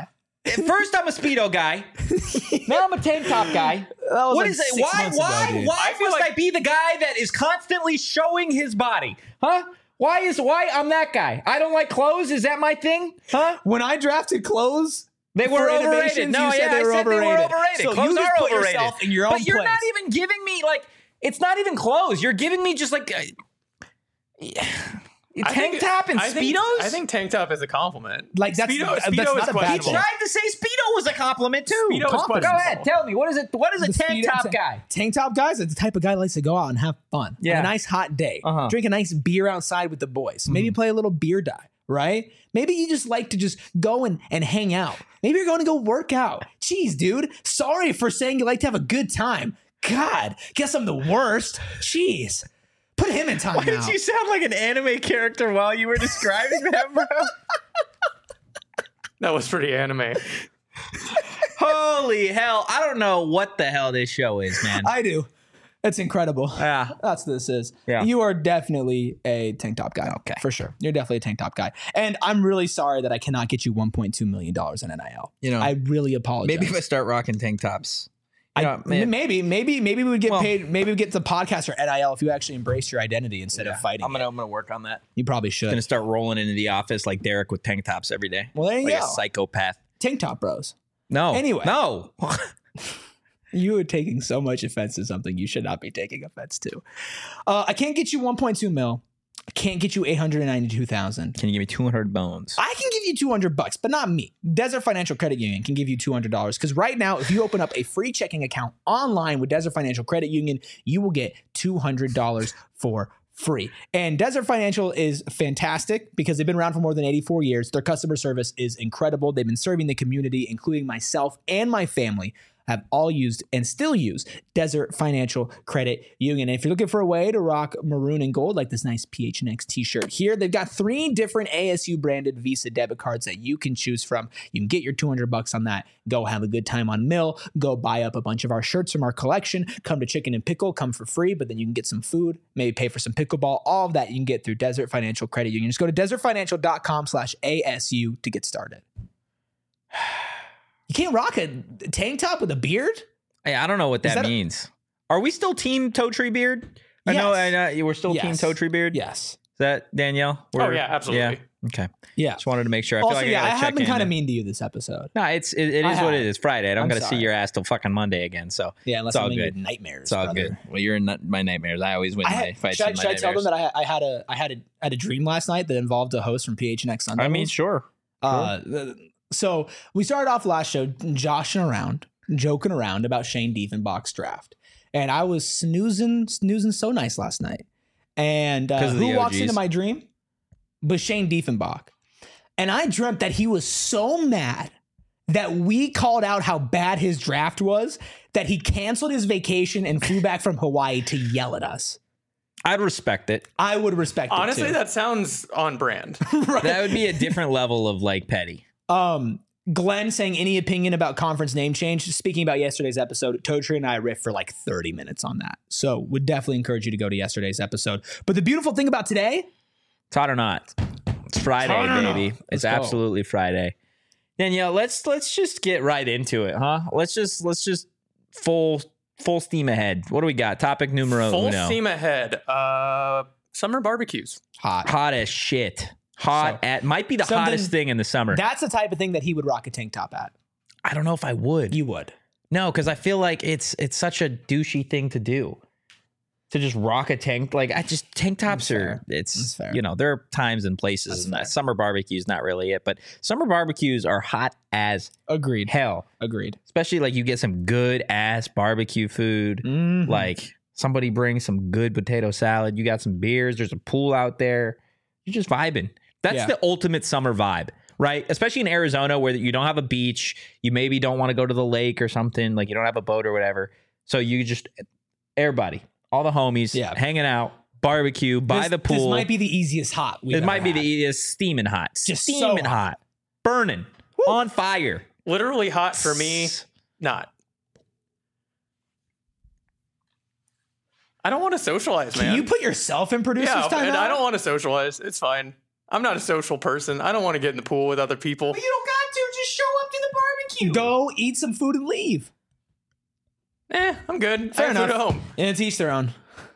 First, I'm a Speedo guy. Now I'm a tank top guy. was What like is it? six Why? months ago, Why? dude. Why I feel must like- I be the guy that is constantly showing his body? Huh? Why is why I'm that guy? I don't like clothes. Is that my thing? Huh? When I drafted clothes, They were for overrated. innovations, No, you said yeah, they I were said they were overrated. overrated. So Clothes you just are put overrated. yourself in your but own you're place. not even giving me like. It's not even clothes. You're giving me just like. Uh, I tank think- top and I think, Speedos. I think tank top is a compliment. Like, that's- Speedo, that's Speedo not is a bad questionable. thing. Tried to say Speedo was a compliment too. Speedo is Go questionable. ahead, tell me what is it? What is a The tank speed- top ta- guy? Tank top guys are the type of guy that likes to go out and have fun. Yeah. On a nice hot day. Uh-huh. Drink a nice beer outside with the boys. Maybe play a little beer die, right? Maybe you just like to just go and, and hang out. Maybe you're going to go work out. Jeez, dude. Sorry for saying you like to have a good time. God, guess I'm the worst. Jeez. Put him in time Why now. did you sound like an anime character while you were describing that, bro? That was pretty anime. Holy hell. I don't know what the hell this show is, man. I do. It's incredible. Yeah. That's what this is. Yeah. You are definitely a tank top guy. Okay. For sure. You're definitely a tank top guy. And I'm really sorry that I cannot get you one point two million dollars in N I L. You know, I really apologize. Maybe if I start rocking tank tops. You I, know, man, maybe, maybe, maybe we would get Well- paid. Maybe we get the podcast or N I L if you actually embrace your identity instead of fighting. I'm gonna it. I'm gonna work on that. You probably should. Gonna start rolling into the office like Derek with tank tops every day. Well, there you like go. a psychopath. Tank top bros. No. Anyway. No. You are taking so much offense to something you should not be taking offense to. Uh, I can't get you one point two mil. I can't get you eight hundred ninety-two thousand. Can you give me two hundred bones? I can give you two hundred bucks, but not me. Desert Financial Credit Union can give you two hundred dollars because right now, if you open up a free checking account online with Desert Financial Credit Union, you will get two hundred dollars for free. And Desert Financial is fantastic because they've been around for more than eighty-four years. Their customer service is incredible. They've been serving the community, including myself and my family, have all used and still use Desert Financial Credit Union. And if you're looking for a way to rock maroon and gold, like this nice P H N X t-shirt here, they've got three different A S U branded Visa debit cards that you can choose from. You can get your two hundred bucks on that. Go have a good time on Mill. Go buy up a bunch of our shirts from our collection. Come to Chicken and Pickle. Come for free, but then you can get some food, maybe pay for some pickleball. All of that you can get through Desert Financial Credit Union. Just go to desertfinancial.com slash ASU to get started. You can't rock a tank top with a beard? Hey, I don't know what that, that a- means. Are we still Team Toe Tree Beard? I know, I Yes. know we're still Team Yes. Toe Tree Beard. Yes. Is that Danielle? Oh, We're- yeah, absolutely. Yeah. Okay. Yeah. Just wanted to make sure. I Also, feel like yeah, I, I gotta have check been in kind of and- mean to you this episode. No, it's it, it I is what have. it is. Friday. I don't I'm got to see sorry. your ass till fucking Monday again. So Yeah, unless it's all I'm in your good. nightmares. It's all brother. good. Well, you're in my nightmares. I always win I my had, fights should I, in my should I tell them nightmares. that I, I had a I had a I had a dream last night that involved a host from P H N X Sunday? I mean, sure. Uh, th- so we started off last show joshing around, joking around about Shane Diefenbach's draft, and I was snoozing, snoozing so nice last night. And uh, 'Cause of the who walks O Gs. into my dream? But Shane Diefenbach, and I dreamt that he was so mad that we called out how bad his draft was that he canceled his vacation and flew back from Hawaii to yell at us. I'd respect it. I would respect Honestly, it too. that sounds on brand. right. That would be a different level of like petty. Um, Glenn saying any opinion about conference name change. Speaking about yesterday's episode, Totri and I riffed for like thirty minutes on that. So would definitely encourage you to go to yesterday's episode. But the beautiful thing about today, It's hot or not. It's Friday, Hot or not. baby. It's Let's go. absolutely Friday. Danielle, let's let's just get right into it, huh? Let's just let's just full full steam ahead. What do we got? Topic numero Full uno. steam ahead. Uh, summer barbecues. hot. Hot as shit. Hot So, at might be the something- hottest thing in the summer. That's the type of thing that he would rock a tank top at. I don't know if I would. You would. No, because I feel like it's it's such a douchey thing to do. To just rock a tank, like I just tank tops That's are. fair. It's That's fair. you know there are times and places, That's and fair. that summer barbecue is not really it. But summer barbecues are hot as Agreed. hell, Agreed. especially like you get some good ass barbecue food. Mhm. Like somebody brings some good potato salad. You got some beers. There's a pool out there. You're just vibing. That's Yeah. the ultimate summer vibe, right? Especially in Arizona where you don't have a beach. You maybe don't want to go to the lake or something. Like you don't have a boat or whatever. So you just everybody, all the homies, Yeah. hanging out, barbecue by This- the pool. This might be the easiest hot. we've It might ever be had. the easiest steaming hot, Just so steaming hot. hot, burning, on fire. Literally hot for me. Not. I don't want to socialize, Can man. you put yourself in producer's yeah, time and out? I don't want to socialize. It's fine. I'm not a social person. I don't want to get in the pool with other people. You don't got to. Just show up to the you. Go eat some food and leave. Eh, I'm good. Fair I have enough. food at home. And to each their own.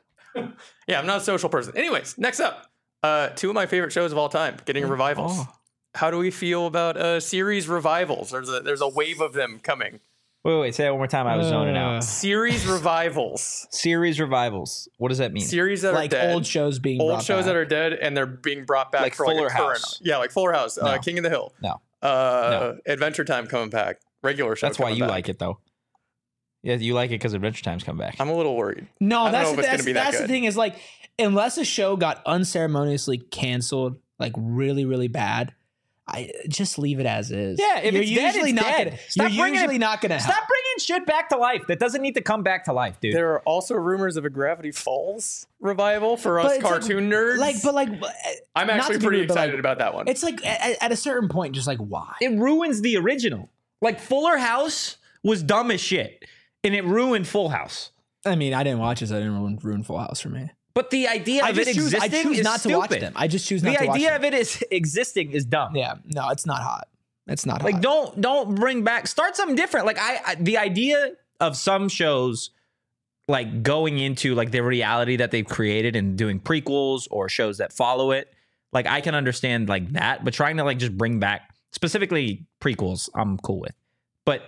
Yeah, I'm not a social person. Anyways, next up, uh, two of my favorite shows of all time getting revivals. Oh. How do we feel about uh, series revivals? There's a there's a wave of them coming. Wait, wait, say it one more time. I was zoning Uh, out. Series revivals. Series revivals. What does that mean? Series that Like are dead. old shows being old brought shows back. that are dead and they're being brought back Like for Fuller like a current- House. Yeah, like Fuller House, uh, No. King of the Hill. No. Uh, Adventure Time coming back. Regular show. That's why coming you back. like it, though. Yeah, you like it because Adventure Time's come back. I'm a little worried. No, I don't that's know if the, it's gonna that's, be that that's the good. thing is like unless a show got unceremoniously canceled, like really really bad, I just leave it as is. Yeah, if you're it's dead, usually it's not dead. gonna. Stop You're bringing usually it- not gonna. Stop help. bringing shit back to life. That doesn't need to come back to life, dude. There are also rumors of a Gravity Falls revival for But us it's like- cartoon nerds. Like, but like, uh, I'm not actually to be pretty rude, but, excited like, about that one. It's like at, at a certain point, just like why? it ruins the original. Like Fuller House was dumb as shit, and it ruined Full House. I mean, I didn't watch it, so I didn't ruin, ruin Full House for me. But the idea I of it just choose, I existing choose is not stupid. to watch them. I just choose not The to watch idea them. of it is existing is dumb. Yeah, no, it's not hot. It's not Like hot. don't don't bring back start something different. Like I, I the idea of some shows like going into like the reality that they've created and doing prequels or shows that follow it. Like I can understand like that, but trying to like just bring back specifically prequels, I'm cool with. But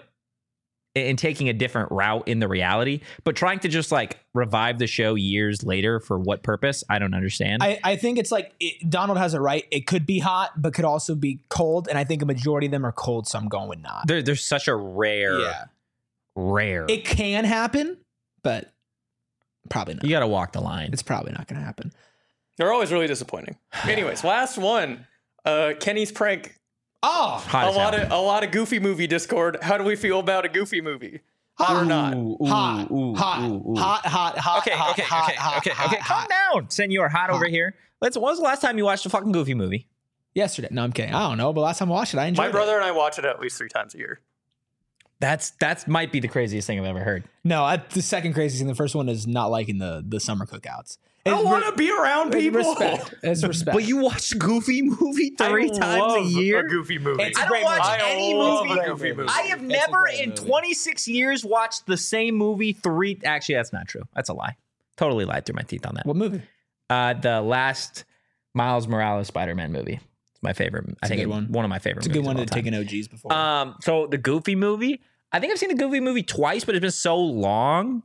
in taking a different route in the reality, but trying to just like revive the show years later for what purpose? I don't understand. I, I think it's like it, Donald has it right. It could be hot, but could also be cold. And I think a majority of them are cold, so I'm going with not. there, there's such a rare, Yeah, rare. it can happen, but probably not. you got to walk the line. It's probably not going to happen. They're always really disappointing. Anyways, last one. Uh, Kenny's prank. Oh, Hot A as lot hell. of a lot of Goofy movie Discord. How do we feel about a Goofy movie? Hot or not? Ooh, ooh, hot, ooh, hot, ooh, ooh. hot, hot, hot, Okay, hot, okay, hot, okay, hot, okay, hot, okay. Calm hot. down, Senor. Hot over here. Let's. When was the last time you watched a fucking Goofy movie? Yesterday. No, I'm kidding. I don't know, but last time I watched it, I enjoyed My it. brother and I watch it at least three times a year. That's that's might be the craziest thing I've ever heard. No, I, the second craziest thing. The first one is not liking the the summer cookouts. I It's want re- to be around it's people. Respect. It's respect. But you watch Goofy movie three I times love a year. A Goofy movie. It's a I don't great watch movie. I any love movie. a Goofy movie. I have It's a never great in movie. twenty-six years watched the same movie three. Actually, that's not true. That's a lie. Totally lied through my teeth on that. What movie? Uh, the last Miles Morales Spider-Man movie. It's my favorite. I a think good it- one. one of my favorite. It's a good movies one of to all take time. an O Gs before. Um, so the Goofy movie, I think I've seen the Goofy movie twice, but it's been so long.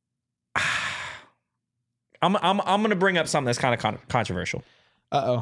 I'm I'm I'm gonna bring up something that's kind of con- controversial. Uh oh.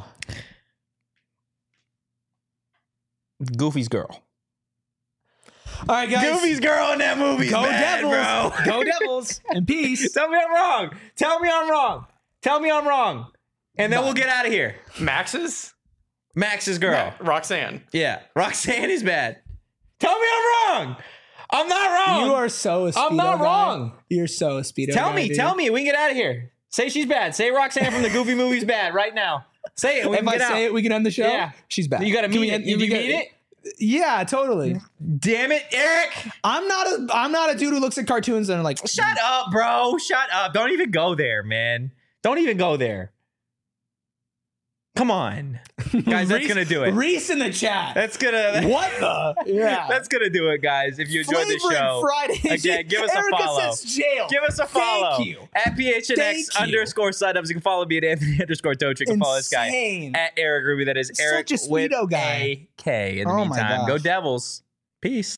Goofy's girl. All right, guys. Goofy's girl in that movie. Go bad, Devils. bro. Go Devils. In peace. Tell me I'm wrong. Tell me I'm wrong. Tell me I'm wrong. And then we'll get out of here. Max's Max's girl. Roxanne. Yeah. Roxanne is bad. Tell me I'm wrong. I'm not wrong. You are so a Speedo I'm not guy. wrong. You're so a Speedo Tell guy, me, dude. tell me. We can get out of here. Say she's bad. Say Roxanne from the Goofy movie's bad right now. Say it. We If can I get say out. it, we can end the show. Yeah. She's back. You got to Can mean we it. end- Did we you got- mean it? Yeah, totally. Damn it, Eric. I'm not a I'm not a dude who looks at cartoons and are like, Shut up, bro. Shut up. Don't even go there, man. Don't even go there. Come on. Guys, that's Reese- going to do it. Reese in the chat. That's going to what the? Yeah. That's going to do it, guys. If you enjoyed the Flavored show, Fridays. again, give us a Erica follow. says jail. give us a follow. Thank you. At P H N X Thank you. underscore signups. You can follow me at Anthony underscore Toach. You can follow this guy Insane. at Eric Ruby. That is Such Eric a with Speedo guy. a K. In the Oh my meantime, go gosh. Devils. Peace.